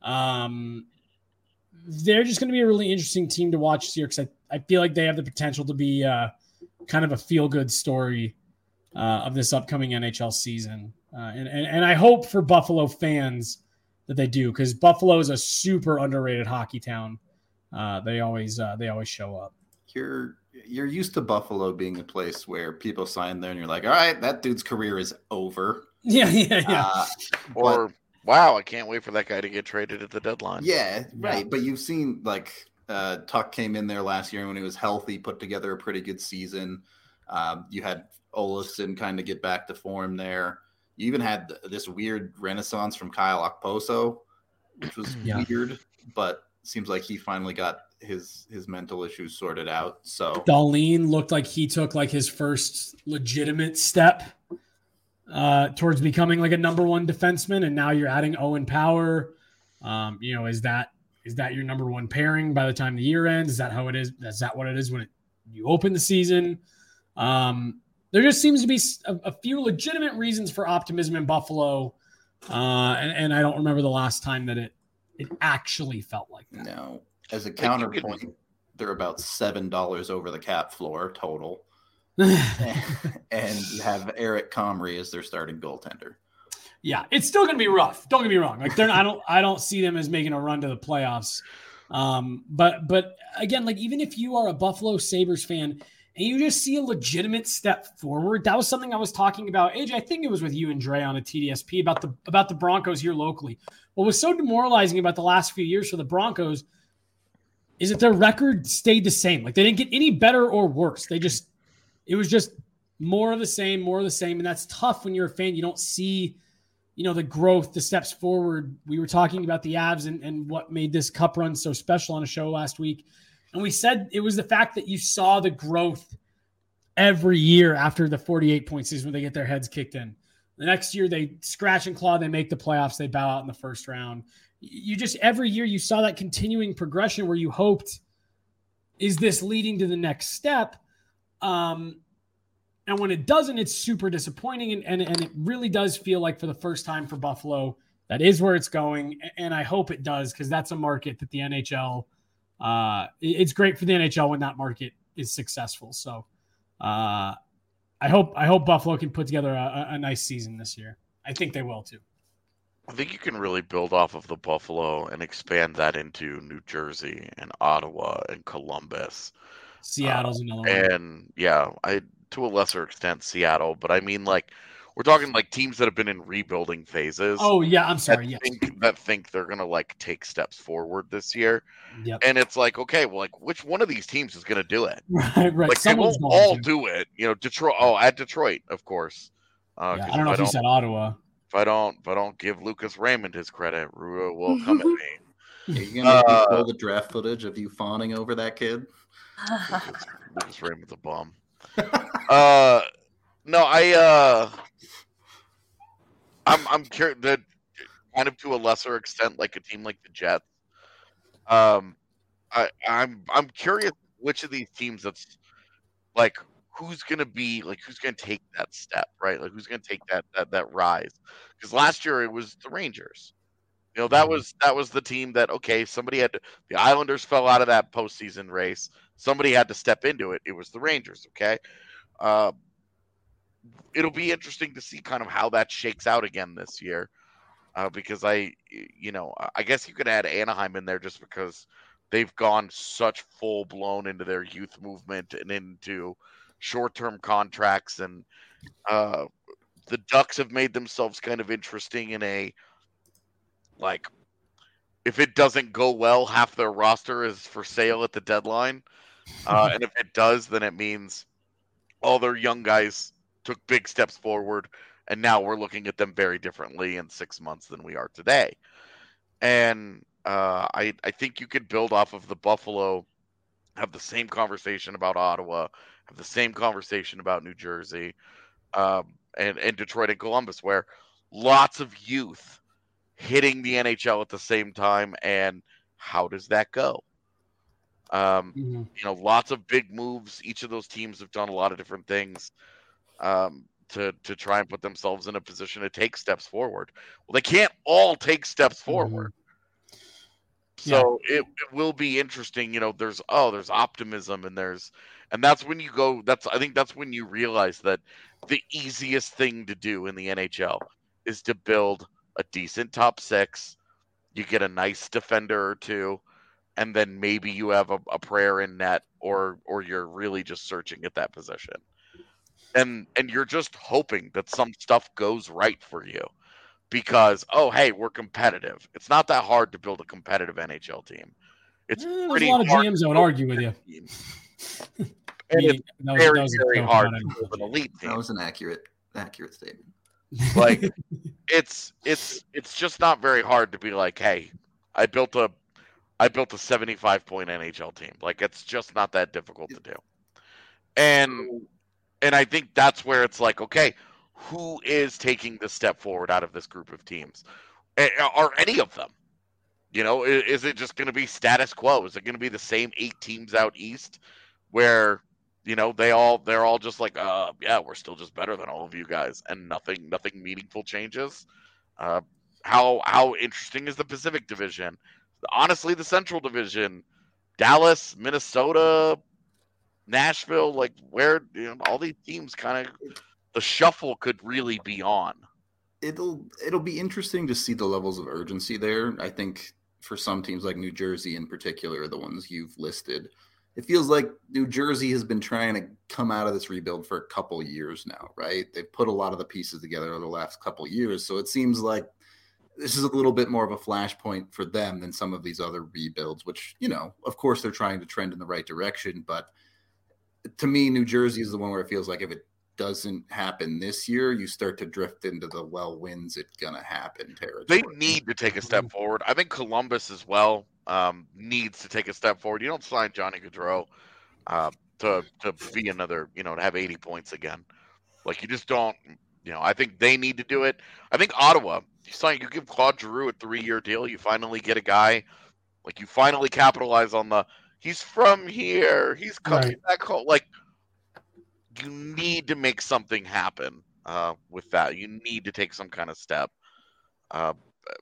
Um, they're just going to be a really interesting team to watch this year because I, I feel like they have the potential to be uh, kind of a feel-good story uh, of this upcoming N H L season. Uh, and, and, and I hope for Buffalo fans that they do, because Buffalo is a super underrated hockey town. Uh, they always uh, they always show up. You're you're used to Buffalo being a place where people sign there and you're like, all right, that dude's career is over. Yeah, yeah, yeah. Uh, or but, wow, I can't wait for that guy to get traded at the deadline. Yeah, right. Yeah. But you've seen like uh, Tuck came in there last year when he was healthy, put together a pretty good season. Um, you had Olofsson kind of get back to form there. You even had this weird renaissance from Kyle Okposo, which was yeah. weird, but seems like he finally got his his mental issues sorted out. So Dahlin looked like he took like his first legitimate step uh, towards becoming like a number one defenseman, and now you're adding Owen Power. Um, you know, is that is that your number one pairing by the time the year ends? Is that how it is? Is that what it is when it, you open the season? Um, there just seems to be a, a few legitimate reasons for optimism in Buffalo, uh, and, and I don't remember the last time that it it actually felt like that. No. As a counterpoint, they're about seven dollars over the cap floor total. and, and you have Eric Comrie as their starting goaltender. Yeah, it's still going to be rough. Don't get me wrong. Like they're, I don't, I don't see them as making a run to the playoffs. Um, but, but again, like even if you are a Buffalo Sabres fan and you just see a legitimate step forward, that was something I was talking about. A J, I think it was with you and Dre on a T D S P about the about the Broncos here locally. What was so demoralizing about the last few years for the Broncos is that their record stayed the same. Like they didn't get any better or worse. They just, it was just more of the same, more of the same. And that's tough when you're a fan. You don't see, you know, the growth, the steps forward. We were talking about the Avs and, and what made this cup run so special on a show last week. And we said it was the fact that you saw the growth every year after the forty-eight point season when they get their heads kicked in. The next year they scratch and claw, they make the playoffs, they bow out in the first round. You just, every year you saw that continuing progression where you hoped, is this leading to the next step? Um, and when it doesn't, it's super disappointing. And, and, and it really does feel like for the first time for Buffalo, that is where it's going. And I hope it does, because that's a market that the N H L, uh, it's great for the N H L when that market is successful. So uh, I hope, I hope Buffalo can put together a, a nice season this year. I think they will too. I think you can really build off of the Buffalo and expand that into New Jersey and Ottawa and Columbus. Seattle's uh, another one. And yeah, I to a lesser extent Seattle, but I mean like we're talking like teams that have been in rebuilding phases. Oh yeah, I'm sorry. That yes. think, that think they're gonna like take steps forward this year. Yep. And it's like, okay, well, like which one of these teams is gonna do it? Right, right. Like Someone's they won't all to. do it. You know, Detroit. Oh, at Detroit, of course. Uh, yeah, I don't know if, if you said Ottawa. If I don't, if I don't give Lucas Raymond his credit, Rua will come at me. Are you gonna uh, pull the draft footage of you fawning over that kid? Lucas, Lucas Raymond's a bum. uh, no, I, uh, I'm, I'm curious that kind of to a lesser extent, like a team like the Jets. Um, I, I'm, I'm curious which of these teams that's like. Who's going to be like, who's going to take that step, right? Like, who's going to take that, that, that rise? Because last year it was the Rangers. You know, that was, that was the team that, okay, somebody had to, the Islanders fell out of that postseason race. Somebody had to step into it. It was the Rangers. Okay. Uh, it'll be interesting to see kind of how that shakes out again this year. Uh, because I, you know, I guess you could add Anaheim in there just because they've gone such full blown into their youth movement and into short-term contracts, and uh, the Ducks have made themselves kind of interesting in a, like, if it doesn't go well, half their roster is for sale at the deadline. Uh, and if it does, then it means all their young guys took big steps forward, and now we're looking at them very differently in six months than we are today. And Uh, I I think you could build off of the Buffalo, have the same conversation about Ottawa, have the same conversation about New Jersey, um, and and Detroit and Columbus, where lots of youth hitting the N H L at the same time, and how does that go? Um, Mm-hmm. you know, lots of big moves. Each of those teams have done a lot of different things um, to to try and put themselves in a position to take steps forward. Well, they can't all take steps forward. So yeah. it, it will be interesting. You know, there's oh, there's optimism, and there's and that's when you go. That's I think that's when you realize that the easiest thing to do in the N H L is to build a decent top six. You get a nice defender or two, and then maybe you have a, a prayer in net, or or you're really just searching at that position, and and you're just hoping that some stuff goes right for you. Because, oh, hey, we're competitive. It's not that hard to build a competitive N H L team. It's eh, pretty there's a lot hard of G Ms that would argue with you. and Me, it's that was, very, that was a very joke hard about to build an elite team. That was an accurate, accurate statement. Like, it's it's it's just not very hard to be like, hey, I built a I built a seventy-five point N H L team. Like, it's just not that difficult to do. And and I think that's where it's like, okay, who is taking the step forward out of this group of teams? Are any of them? You know, is it just going to be status quo? Is it going to be the same eight teams out east where, you know, they all they're all just like, uh, yeah, we're still just better than all of you guys, and nothing nothing meaningful changes? Uh, how how interesting is the Pacific Division? Honestly, the Central Division, Dallas, Minnesota, Nashville, like where you know all these teams kind of. The shuffle could really be on. It'll it'll be interesting to see the levels of urgency there. I think for some teams like New Jersey in particular, the ones you've listed, it feels like New Jersey has been trying to come out of this rebuild for a couple years now, right? They've put a lot of the pieces together over the last couple years. So it seems like this is a little bit more of a flashpoint for them than some of these other rebuilds, which, you know, of course they're trying to trend in the right direction. But to me, New Jersey is the one where it feels like if it doesn't happen this year, you start to drift into the well, when's it gonna happen territory. They need to take a step forward. I think Columbus as well um, needs to take a step forward. You don't sign Johnny Gaudreau uh, to to be another, you know, to have eighty points again. Like you just don't. You know, I think they need to do it. I think Ottawa. You sign. You give Claude Giroux a three-year deal. You finally get a guy. Like you finally capitalize on the. He's from here. He's coming right. back home. Like. You need to make something happen uh, with that. You need to take some kind of step. Uh,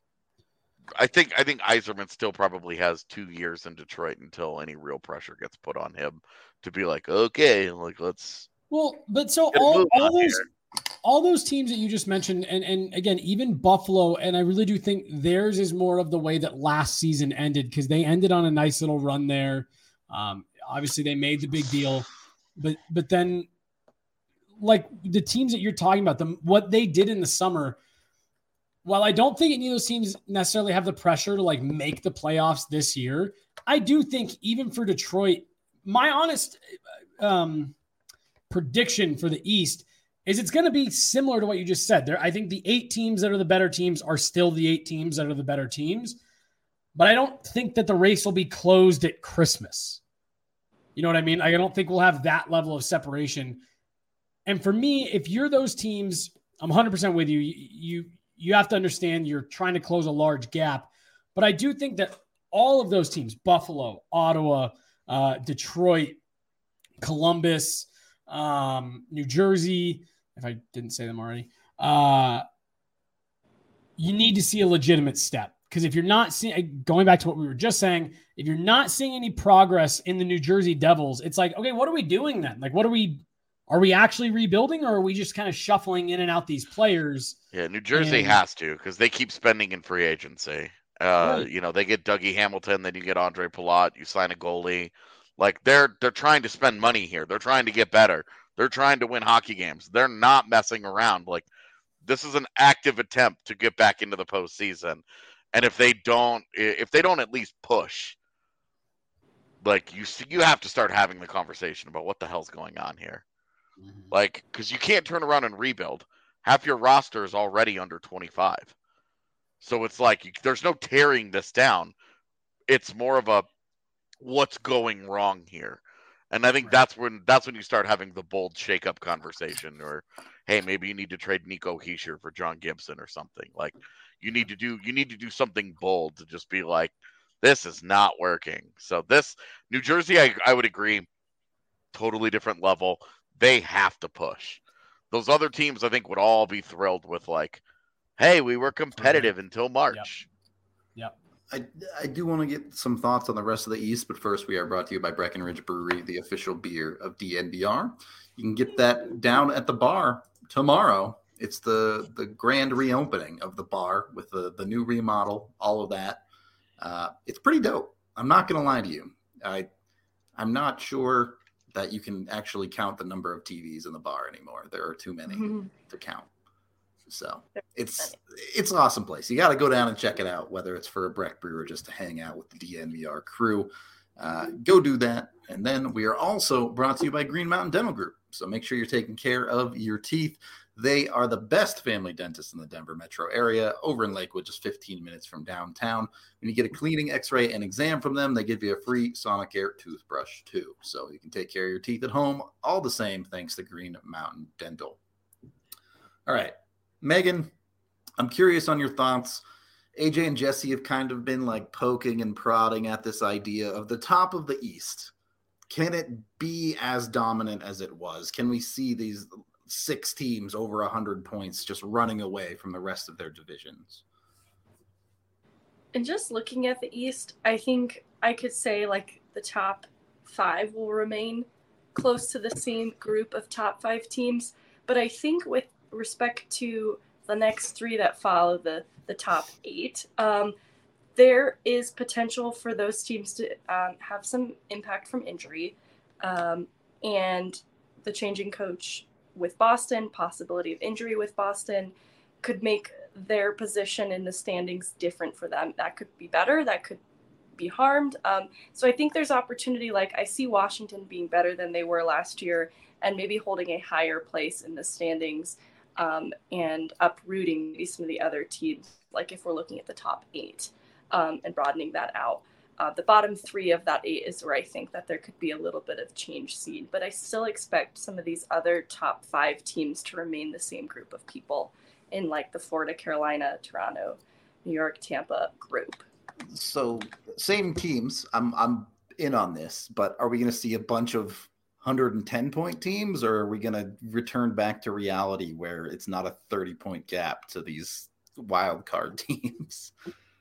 I think I think Yzerman still probably has two years in Detroit until any real pressure gets put on him to be like, okay, like let's. Well, but so all, all those here. all those teams that you just mentioned, and and again, even Buffalo, and I really do think theirs is more of the way that last season ended because they ended on a nice little run there. Um, obviously, they made the big deal, but but then. Like the teams that you're talking about, them what they did in the summer, while I don't think any of those teams necessarily have the pressure to like make the playoffs this year, I do think even for Detroit, my honest um, prediction for the East is it's going to be similar to what you just said. There, I think the eight teams that are the better teams are still the eight teams that are the better teams, but I don't think that the race will be closed at Christmas. You know what I mean? I don't think we'll have that level of separation. And for me, if you're those teams, I'm one hundred percent with you. You, you. you have to understand you're trying to close a large gap. But I do think that all of those teams, Buffalo, Ottawa, uh, Detroit, Columbus, um, New Jersey, if I didn't say them already, uh, you need to see a legitimate step. Because if you're not seeing, going back to what we were just saying, if you're not seeing any progress in the New Jersey Devils, it's like, okay, what are we doing then? Like, what are we... Are we actually rebuilding, or are we just kind of shuffling in and out these players? Yeah, New Jersey and... has to because they keep spending in free agency. Uh, right. You know, they get Dougie Hamilton, then you get Andre Palat, you sign a goalie. Like they're they're trying to spend money here. They're trying to get better. They're trying to win hockey games. They're not messing around. Like this is an active attempt to get back into the postseason. And if they don't, if they don't at least push, like you you have to start having the conversation about what the hell's going on here. Like, because you can't turn around and rebuild. Half your roster is already under twenty-five. So it's like, you, there's no tearing this down. it's more of a what's going wrong here. And I think that's when that's when you start having the bold shakeup conversation, or hey, maybe you need to trade Nico Hischier for John Gibson or something. Like you need to do you need to do something bold to just be like, this is not working. So this New Jersey, I, I would agree, totally different level. They have to push. Those other teams, I think, would all be thrilled with like, hey, we were competitive until March. Yep. yep. I, I do want to get some thoughts on the rest of the East, but first we are brought to you by Breckenridge Brewery, the official beer of D N V R. You can get that down at the bar tomorrow. It's the the grand reopening of the bar with the, the new remodel, all of that. Uh, it's pretty dope. I'm not going to lie to you. I, I'm not sure that you can actually count the number of T Vs in the bar anymore. There are too many mm-hmm. to count. So it's it's an awesome place. You got to go down and check it out, whether it's for a Breck brew or just to hang out with the D N V R crew. Uh, go do that. And then we are also brought to you by Green Mountain Dental Group. So make sure you're taking care of your teeth. They are the best family dentist in the Denver metro area, over in Lakewood, just fifteen minutes from downtown. When you get a cleaning, x-ray, and exam from them, they give you a free Sonicare toothbrush too. So you can take care of your teeth at home, all the same, thanks to Green Mountain Dental. All right. Megan, I'm curious on your thoughts. A J and Jesse have kind of been like poking and prodding at this idea of the top of the East. Can it be as dominant as it was? Can we see these six teams over one hundred points just running away from the rest of their divisions? And just looking at the East, I think I could say like the top five will remain close to the same group of top five teams. But I think with respect to the next three that follow the the top eight, um there is potential for those teams to um, have some impact from injury, um and the changing coach with Boston, possibility of injury with Boston, could make their position in the standings different for them. That could be better, that could be harmed. Um, so I think there's opportunity. Like I see Washington being better than they were last year and maybe holding a higher place in the standings, um, and uprooting maybe some of the other teams, like if we're looking at the top eight, um, and broadening that out. Uh, the bottom three of that eight is where I think that there could be a little bit of change seen, but I still expect some of these other top five teams to remain the same group of people in like the Florida, Carolina, Toronto, New York, Tampa group. So same teams. I'm I'm in on this, but are we going to see a bunch of one hundred ten point teams, or are we going to return back to reality where it's not a thirty point gap to these wild card teams?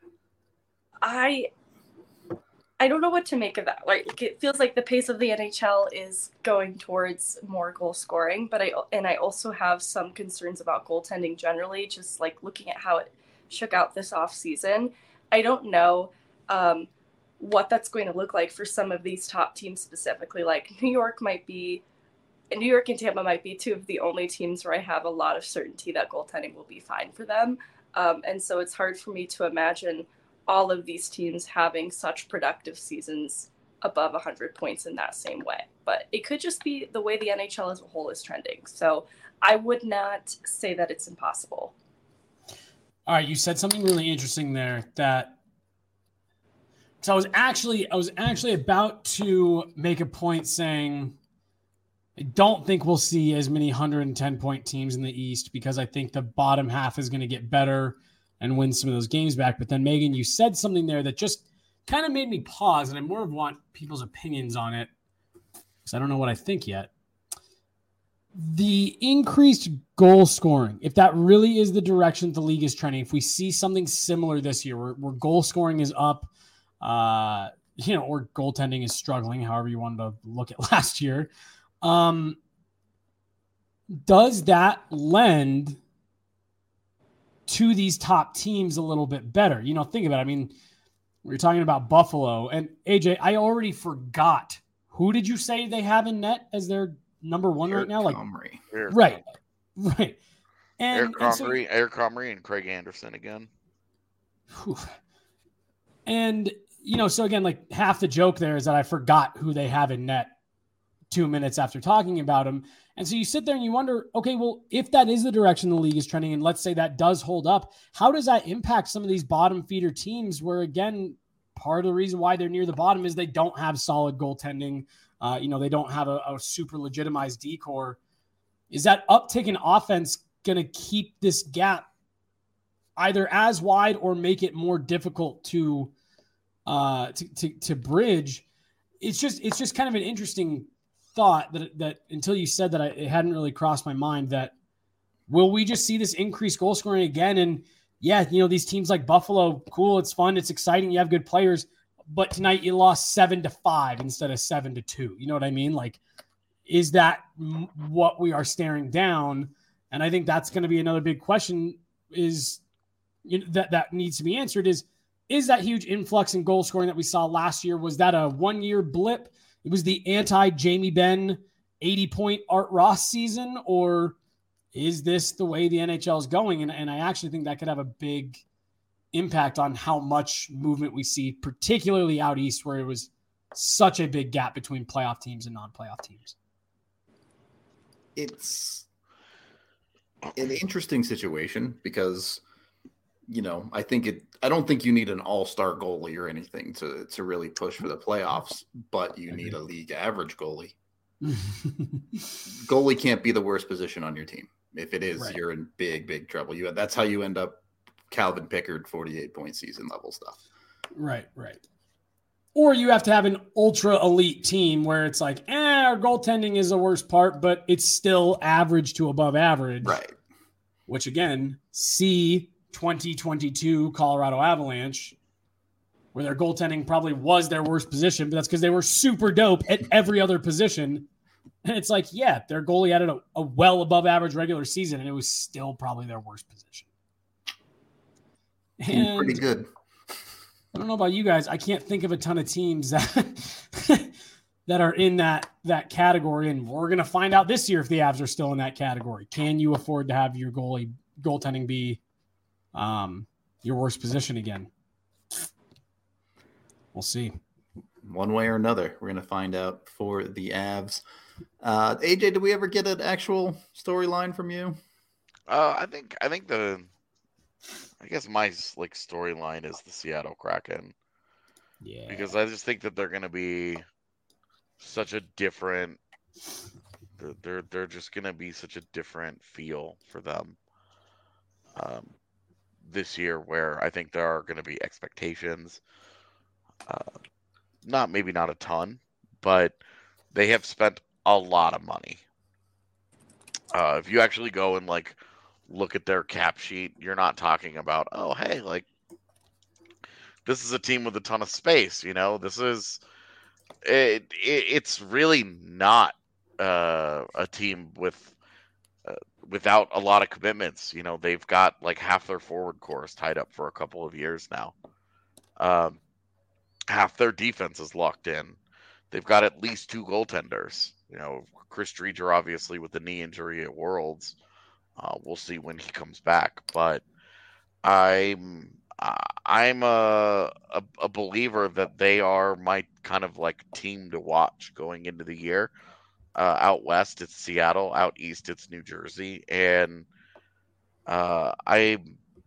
I I don't know what to make of that. Like it feels like the pace of the N H L is going towards more goal scoring, but I and I also have some concerns about goaltending generally, just like looking at how it shook out this off season. I don't know um, what that's going to look like for some of these top teams specifically. Like New York might be, New York and Tampa might be two of the only teams where I have a lot of certainty that goaltending will be fine for them. Um, and so it's hard for me to imagine all of these teams having such productive seasons above one hundred points in that same way. But it could just be the way the N H L as a whole is trending. So I would not say that it's impossible. All right, you said something really interesting there that so I was actually I was actually about to make a point saying I don't think we'll see as many one hundred ten point teams in the East because I think the bottom half is going to get better and win some of those games back. But then, Megan, you said something there that just kind of made me pause, and I more want people's opinions on it because I don't know what I think yet. The increased goal scoring, if that really is the direction the league is trending, if we see something similar this year where, where goal scoring is up, uh, you know, or goaltending is struggling, however you wanted to look at last year, um, does that lend to these top teams a little bit better? You know, think about it. I mean, we were talking about Buffalo and A J, I already forgot. Who did you say they have in net as their number one Eric right now? Like, Comrie. right, right. And, Eric and, so, Comrie, Eric Comrie and Craig Anderson again. Whew. And, you know, so again, like half the joke there is that I forgot who they have in net two minutes after talking about him. And so you sit there and you wonder, okay, well, if that is the direction the league is trending, and let's say that does hold up, how does that impact some of these bottom feeder teams where, again, part of the reason why they're near the bottom is they don't have solid goaltending. Uh, you know, they don't have a, a super legitimized decor. Is that uptick in offense going to keep this gap either as wide or make it more difficult to, uh, to, to, to bridge? It's just, it's just kind of an interesting thought that, that until you said that, I, it hadn't really crossed my mind that will we just see this increased goal scoring again? And yeah, you know, these teams like Buffalo, cool. It's fun. It's exciting. You have good players, but tonight you lost seven to five instead of seven to two. You know what I mean? Like, is that what we are staring down? And I think that's going to be another big question is you know, that, that needs to be answered is, is that huge influx in goal scoring that we saw last year? Was that a one year blip? It was the anti Jamie Benn eighty point Art Ross season, or is this the way the N H L is going? And, and I actually think that could have a big impact on how much movement we see, particularly out east, where it was such a big gap between playoff teams and non-playoff teams. It's an interesting situation because, you know, I think it, I don't think you need an all-star goalie or anything to, to really push for the playoffs, but you need a league average goalie. Goalie can't be the worst position on your team. If it is, right, you're in big, big trouble. You that's how you end up Calvin Pickard forty-eight point season level stuff. Right, right. Or you have to have an ultra elite team where it's like, eh, our goaltending is the worst part, but it's still average to above average. Right. Which again, see twenty twenty-two Colorado Avalanche, where their goaltending probably was their worst position, but that's because they were super dope at every other position. And it's like, yeah, their goalie had a, a well above average regular season, and it was still probably their worst position. And pretty good. I don't know about you guys. I can't think of a ton of teams that that are in that that category, and we're gonna find out this year if the Avs are still in that category. Can you afford to have your goalie goaltending be um, your worst position again? We'll see. One way or another, we're gonna find out for the Avs. Uh, A J, did we ever get an actual storyline from you? Uh, I think I think the, I guess my like storyline is the Seattle Kraken. Yeah. Because I just think that they're going to be such a different. They're they're, they're just going to be such a different feel for them. Um, this year, where I think there are going to be expectations. Uh, not maybe not a ton, but they have spent a lot of money. Uh, if you actually go and like look at their cap sheet, you're not talking about, oh, hey, like this is a team with a ton of space. You know, this is it. it it's really not uh, a team with uh, without a lot of commitments. You know, they've got like half their forward core tied up for a couple of years now. Um, half their defense is locked in. They've got at least two goaltenders. You know, Chris Driedger, obviously, with the knee injury at Worlds. Uh, we'll see when he comes back. But I'm I'm a, a, a believer that they are my kind of like team to watch going into the year. Uh, out west, it's Seattle. Out east, it's New Jersey. And uh, I,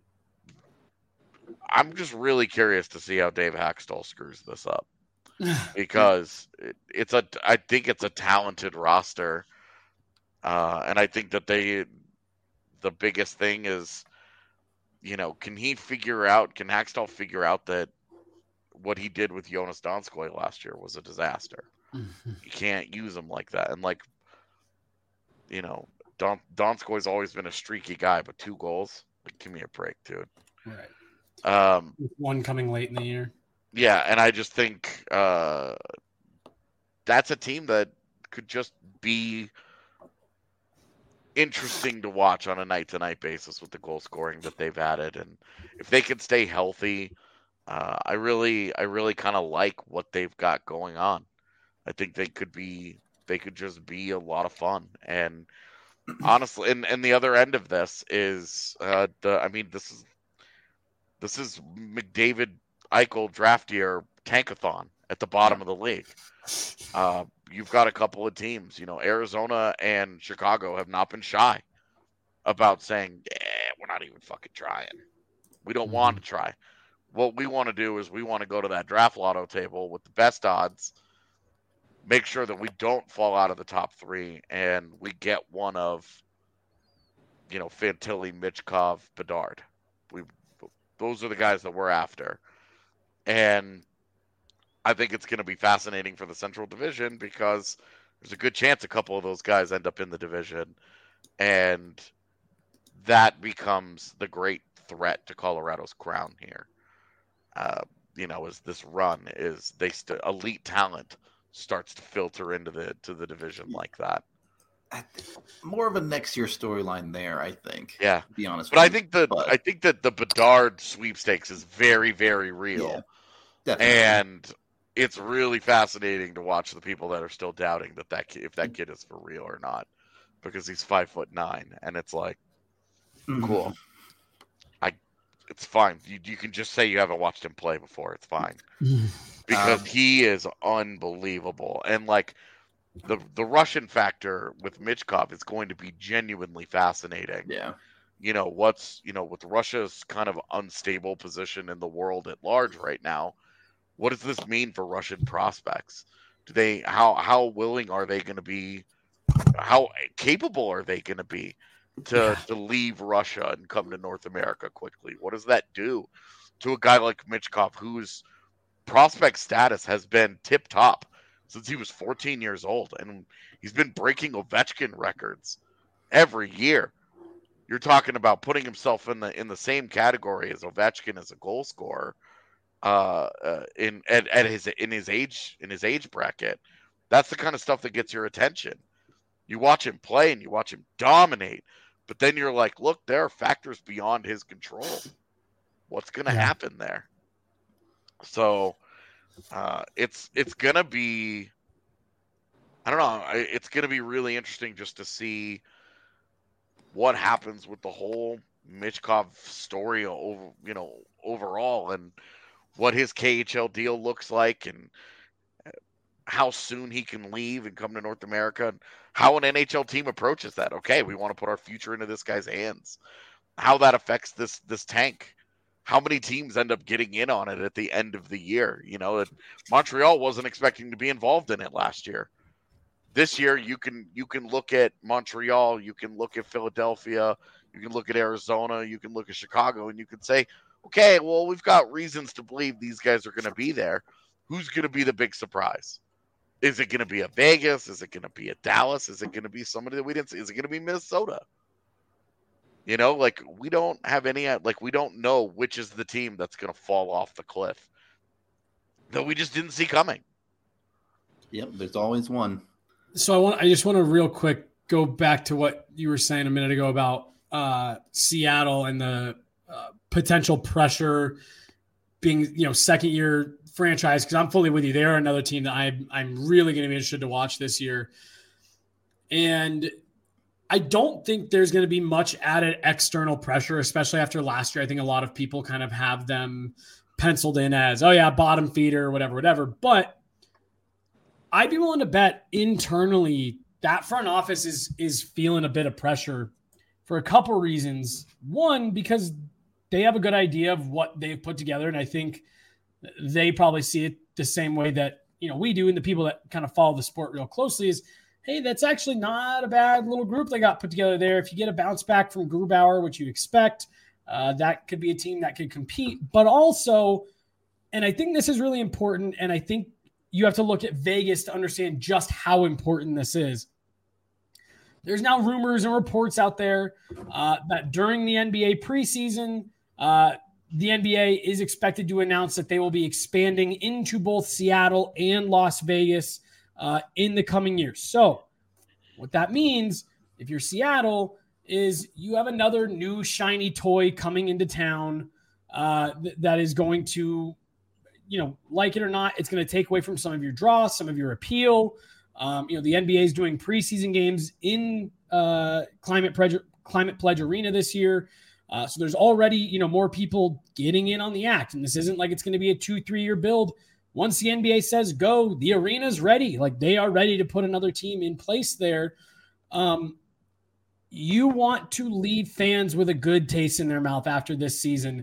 I'm just really curious to see how Dave Haxtell screws this up. Because it, it's a, I think it's a talented roster, uh, and I think that they, the biggest thing is, you know, can he figure out, can Haxtell figure out that what he did with Jonas Donskoy last year was a disaster? You can't use him like that, and like, you know, Don Donskoy's always been a streaky guy, but two goals, like, give me a break, dude. Right. Um, one coming late in the year. Yeah, and I just think uh, that's a team that could just be interesting to watch on a night-to-night basis with the goal scoring that they've added, and if they can stay healthy, uh, I really, I really kind of like what they've got going on. I think they could be, they could just be a lot of fun, and honestly, and, and the other end of this is uh, the, I mean, this is this is McDavid. Eichel draft year tankathon at the bottom of the league. Uh, you've got a couple of teams, you know, Arizona and Chicago have not been shy about saying, yeah, we're not even fucking trying. We don't mm-hmm. want to try. what we want to do is we want to go to that draft lotto table with the best odds, make sure that we don't fall out of the top three, and we get one of, you know, Fantilli, Michkov, Bedard. We those are the guys that we're after. And I think it's going to be fascinating for the Central Division because there's a good chance a couple of those guys end up in the division, and that becomes the great threat to Colorado's crown here. Uh, you know, as this run is they st- elite talent starts to filter into the to the division like that. I think more of a next year storyline there, I think. Yeah, to be honest. But with I you. think that But, I think that the Bedard sweepstakes is very, very real, yeah, definitely. and it's really fascinating to watch the people that are still doubting that that kid, if that kid is for real or not, because he's five foot nine, and it's like, Mhm. cool. I, it's fine. You you can just say you haven't watched him play before. It's fine because Um, he is unbelievable, and like the the Russian factor with Michkov is going to be genuinely fascinating. Yeah. You know what's you know with Russia's kind of unstable position in the world at large right now. What does this mean for Russian prospects? Do they how how willing are they going to be? How capable are they going to be to Yeah. to leave Russia and come to North America quickly? What does that do to a guy like Michkov, whose prospect status has been tip top since he was fourteen years old, and he's been breaking Ovechkin records every year? You're talking about putting himself in the in the same category as Ovechkin as a goal scorer. Uh, uh, in at, at his in his age in his age bracket, that's the kind of stuff that gets your attention. You watch him play and you watch him dominate, but then you're like, look, there are factors beyond his control. What's going to Yeah. happen there? So uh, it's it's gonna be, I don't know, I- it's gonna be really interesting just to see what happens with the whole Michkov story over, you know, overall, and what his K H L deal looks like, and how soon he can leave and come to North America, and how an N H L team approaches that. Okay, we want to put our future into this guy's hands. How that affects this this tank. How many teams end up getting in on it at the end of the year? You know, Montreal wasn't expecting to be involved in it last year. This year, you can you can look at Montreal, you can look at Philadelphia, you can look at Arizona, you can look at Chicago, and you can say, okay, well, we've got reasons to believe these guys are going to be there. Who's going to be the big surprise? Is it going to be a Vegas? Is it going to be a Dallas? Is it going to be somebody that we didn't see? Is it going to be Minnesota? You know, like we don't have any, like we don't know which is the team that's going to fall off the cliff that we just didn't see coming. Yep. There's always one. So I want I just want to real quick go back to what you were saying a minute ago about uh, Seattle and the uh, potential pressure being, you know, second year franchise, because I'm fully with you. They're another team that I'm I'm really going to be interested to watch this year. And I don't think there's going to be much added external pressure, especially after last year. I think a lot of people kind of have them penciled in as, oh yeah, bottom feeder, whatever, whatever. But I'd be willing to bet internally that front office is is feeling a bit of pressure for a couple of reasons. One, because they have a good idea of what they've put together, and I think they probably see it the same way that, you know, we do, and the people that kind of follow the sport real closely is, hey, that's actually not a bad little group they got put together there. If you get a bounce back from Grubauer, which you expect, uh, that could be a team that could compete. But also, and I think this is really important, and I think you have to look at Vegas to understand just how important this is. There's now rumors and reports out there uh, that during the N B A preseason, uh, the N B A is expected to announce that they will be expanding into both Seattle and Las Vegas uh, in the coming years. So what that means, if you're Seattle, is you have another new shiny toy coming into town uh, th- that is going to, you know, like it or not, it's going to take away from some of your draw, some of your appeal. Um, you know, the N B A is doing preseason games in uh, Climate Pledge, Climate Pledge Arena this year. Uh, so there's already, you know, more people getting in on the act. And this isn't like it's going to be a two, three year build. Once the N B A says go, the arena's ready. Like they are ready to put another team in place there. Um, you want to leave fans with a good taste in their mouth after this season.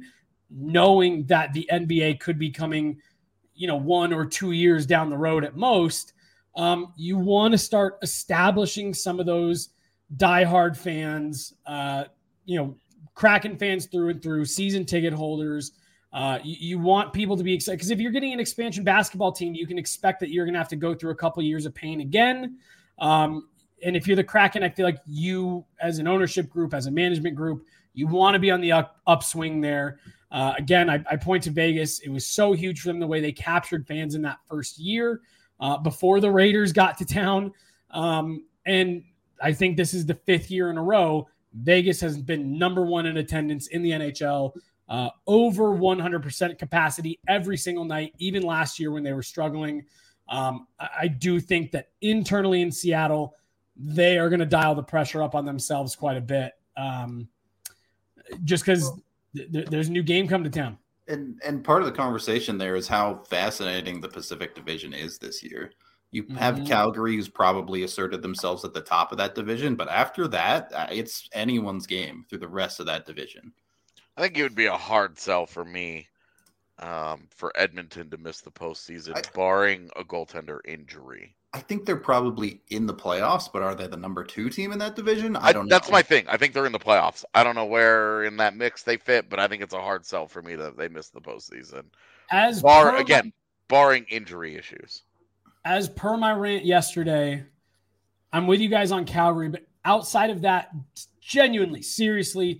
knowing that the N B A could be coming, you know, one or two years down the road at most, um, you want to start establishing some of those diehard fans, uh, you know, Kraken fans through and through, season ticket holders. Uh, you, you want people to be excited because if you're getting an expansion basketball team, you can expect that you're going to have to go through a couple of years of pain again. Um, and if you're the Kraken, I feel like you, as an ownership group, as a management group, you want to be on the up, upswing there. Uh, again, I, I point to Vegas. It was so huge for them the way they captured fans in that first year uh, before the Raiders got to town. Um, and I think this is the fifth year in a row. Vegas has been number one in attendance in the N H L. Uh, over one hundred percent capacity every single night, even last year when they were struggling. Um, I, I do think that internally in Seattle, they are going to dial the pressure up on themselves quite a bit, um, just because th- th- there's a new game come to town. And and part of the conversation there is how fascinating the Pacific Division is this year. You have mm-hmm. Calgary, who's probably asserted themselves at the top of that division, but after that, it's anyone's game through the rest of that division. I think it would be a hard sell for me um, for Edmonton to miss the postseason, I, barring a goaltender injury. I think they're probably in the playoffs, but are they the number two team in that division? I don't I, know. That's my thing. I think they're in the playoffs. I don't know where in that mix they fit, but I think it's a hard sell for me that they missed the postseason. As Bar, per, again, barring injury issues. As per my rant yesterday, I'm with you guys on Calgary, but outside of that, genuinely, seriously,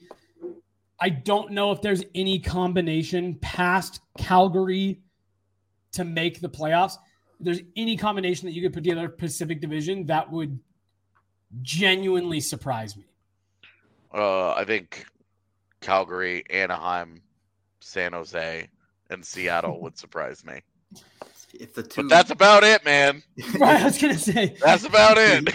I don't know if there's any combination past Calgary to make the playoffs. If there's any combination that you could put together Pacific Division that would genuinely surprise me. Uh, I think Calgary, Anaheim, San Jose, and Seattle would surprise me. If the two... But that's about it, man. Right, I was gonna say that's about it.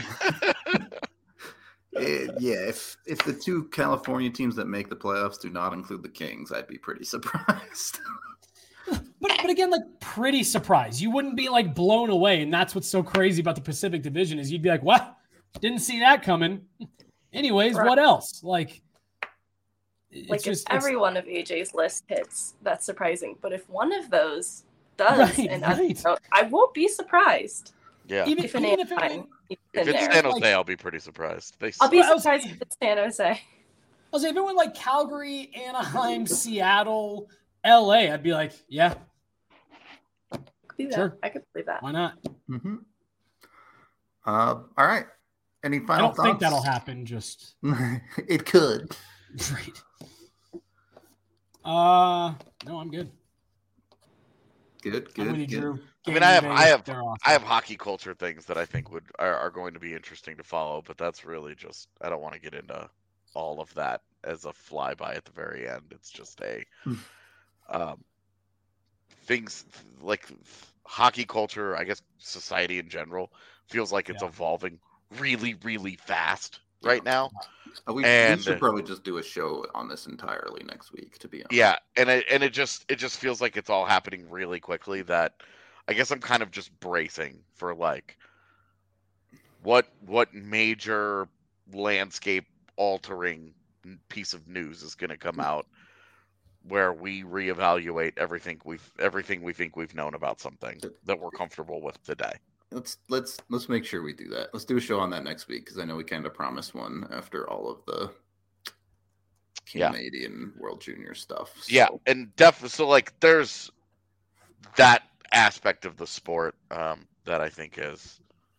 It, yeah, if if the two California teams that make the playoffs do not include the Kings, I'd be pretty surprised. but but again, like pretty surprised. You wouldn't be like blown away, and that's what's so crazy about the Pacific Division is you'd be like, "What? Didn't see that coming." Anyways, right. What else? Like, it's like just, if every it's... one of A J's list hits, that's surprising. But if one of those does, right, and right. I, I won't be surprised. Yeah, even if, even if it, if it's there. San Jose, like, I'll be pretty surprised. They I'll be surprised if it's San Jose. I'll say if it went like Calgary, Anaheim, Seattle, L A, I'd be like, yeah, be that. Sure, I could believe that. Why not? Mm-hmm. Uh, all right. Any final I don't thoughts? think that'll happen. Just it could. Right. Uh, no, I'm good. Good, good, good. Drew. I mean, I have, I have, awesome. I have hockey culture things that I think would are, are going to be interesting to follow, but that's really just I don't want to get into all of that as a flyby at the very end. It's just a um, things like hockey culture. I guess society in general feels like it's yeah. evolving really, really fast right now. Uh, we, and, we should probably just do a show on this entirely next week, to be honest. Yeah, and it and it just it just feels like it's all happening really quickly. That I guess I'm kind of just bracing for like what what major landscape altering piece of news is going to come out where we reevaluate everything we've everything we think we've known about something that we're comfortable with today. Let's let's let's make sure we do that. Let's do a show on that next week because I know we kind of promised one after all of the Canadian yeah. World Junior stuff. So. Yeah, and definitely. So like, there's that aspect of the sport um, that I think is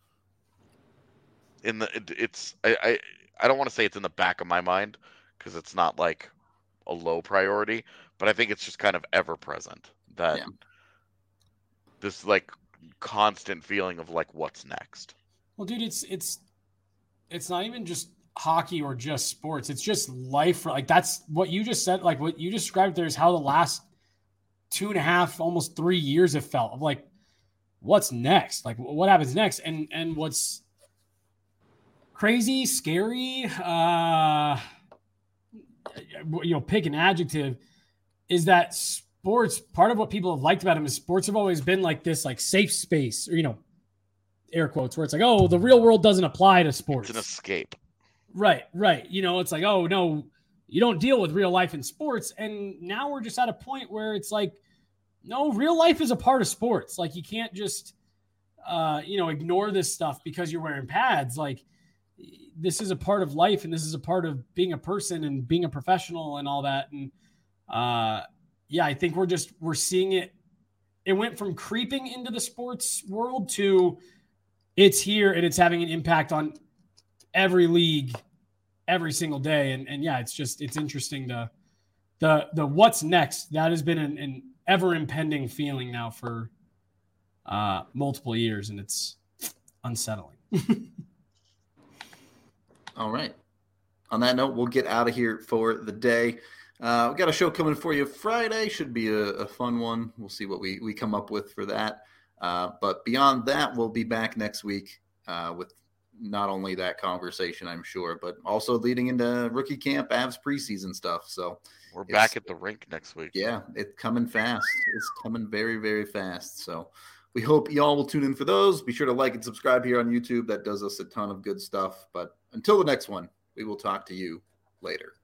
in the. It, it's I, I I don't want to say it's in the back of my mind because it's not like a low priority, but I think it's just kind of ever present that yeah. this like. constant feeling of like what's next. Well, dude, it's it's it's not even just hockey or just sports. It's just life. Like that's what you just said. Like what you described there is how the last two and a half, almost three years have felt. Of like, what's next? Like what happens next? And and what's crazy, scary, uh, you know, pick an adjective, is that sports, part of what people have liked about them is sports have always been like this, like safe space, or, you know, air quotes, where it's like, oh, the real world doesn't apply to sports. It's an escape. Right, right. You know, it's like, oh, no, you don't deal with real life in sports. And now we're just at a point where it's like, no, real life is a part of sports. Like, you can't just, uh, you know, ignore this stuff because you're wearing pads. Like, this is a part of life, and this is a part of being a person and being a professional and all that. And uh, yeah, I think we're just, we're seeing it. It went from creeping into the sports world to it's here and it's having an impact on every league every single day. And, and yeah, it's just, it's interesting to the, the what's next. That has been an, an ever impending feeling now for uh, multiple years, and it's unsettling. All right. On that note, we'll get out of here for the day. Uh, we got a show coming for you Friday. Should be a, a fun one. We'll see what we, we come up with for that. Uh, but beyond that, we'll be back next week uh, with not only that conversation, I'm sure, but also leading into rookie camp, Avs preseason stuff. So we're back at the rink next week. Yeah, it's coming fast. It's coming very, very fast. So we hope y'all will tune in for those. Be sure to like and subscribe here on YouTube. That does us a ton of good stuff. But until the next one, we will talk to you later.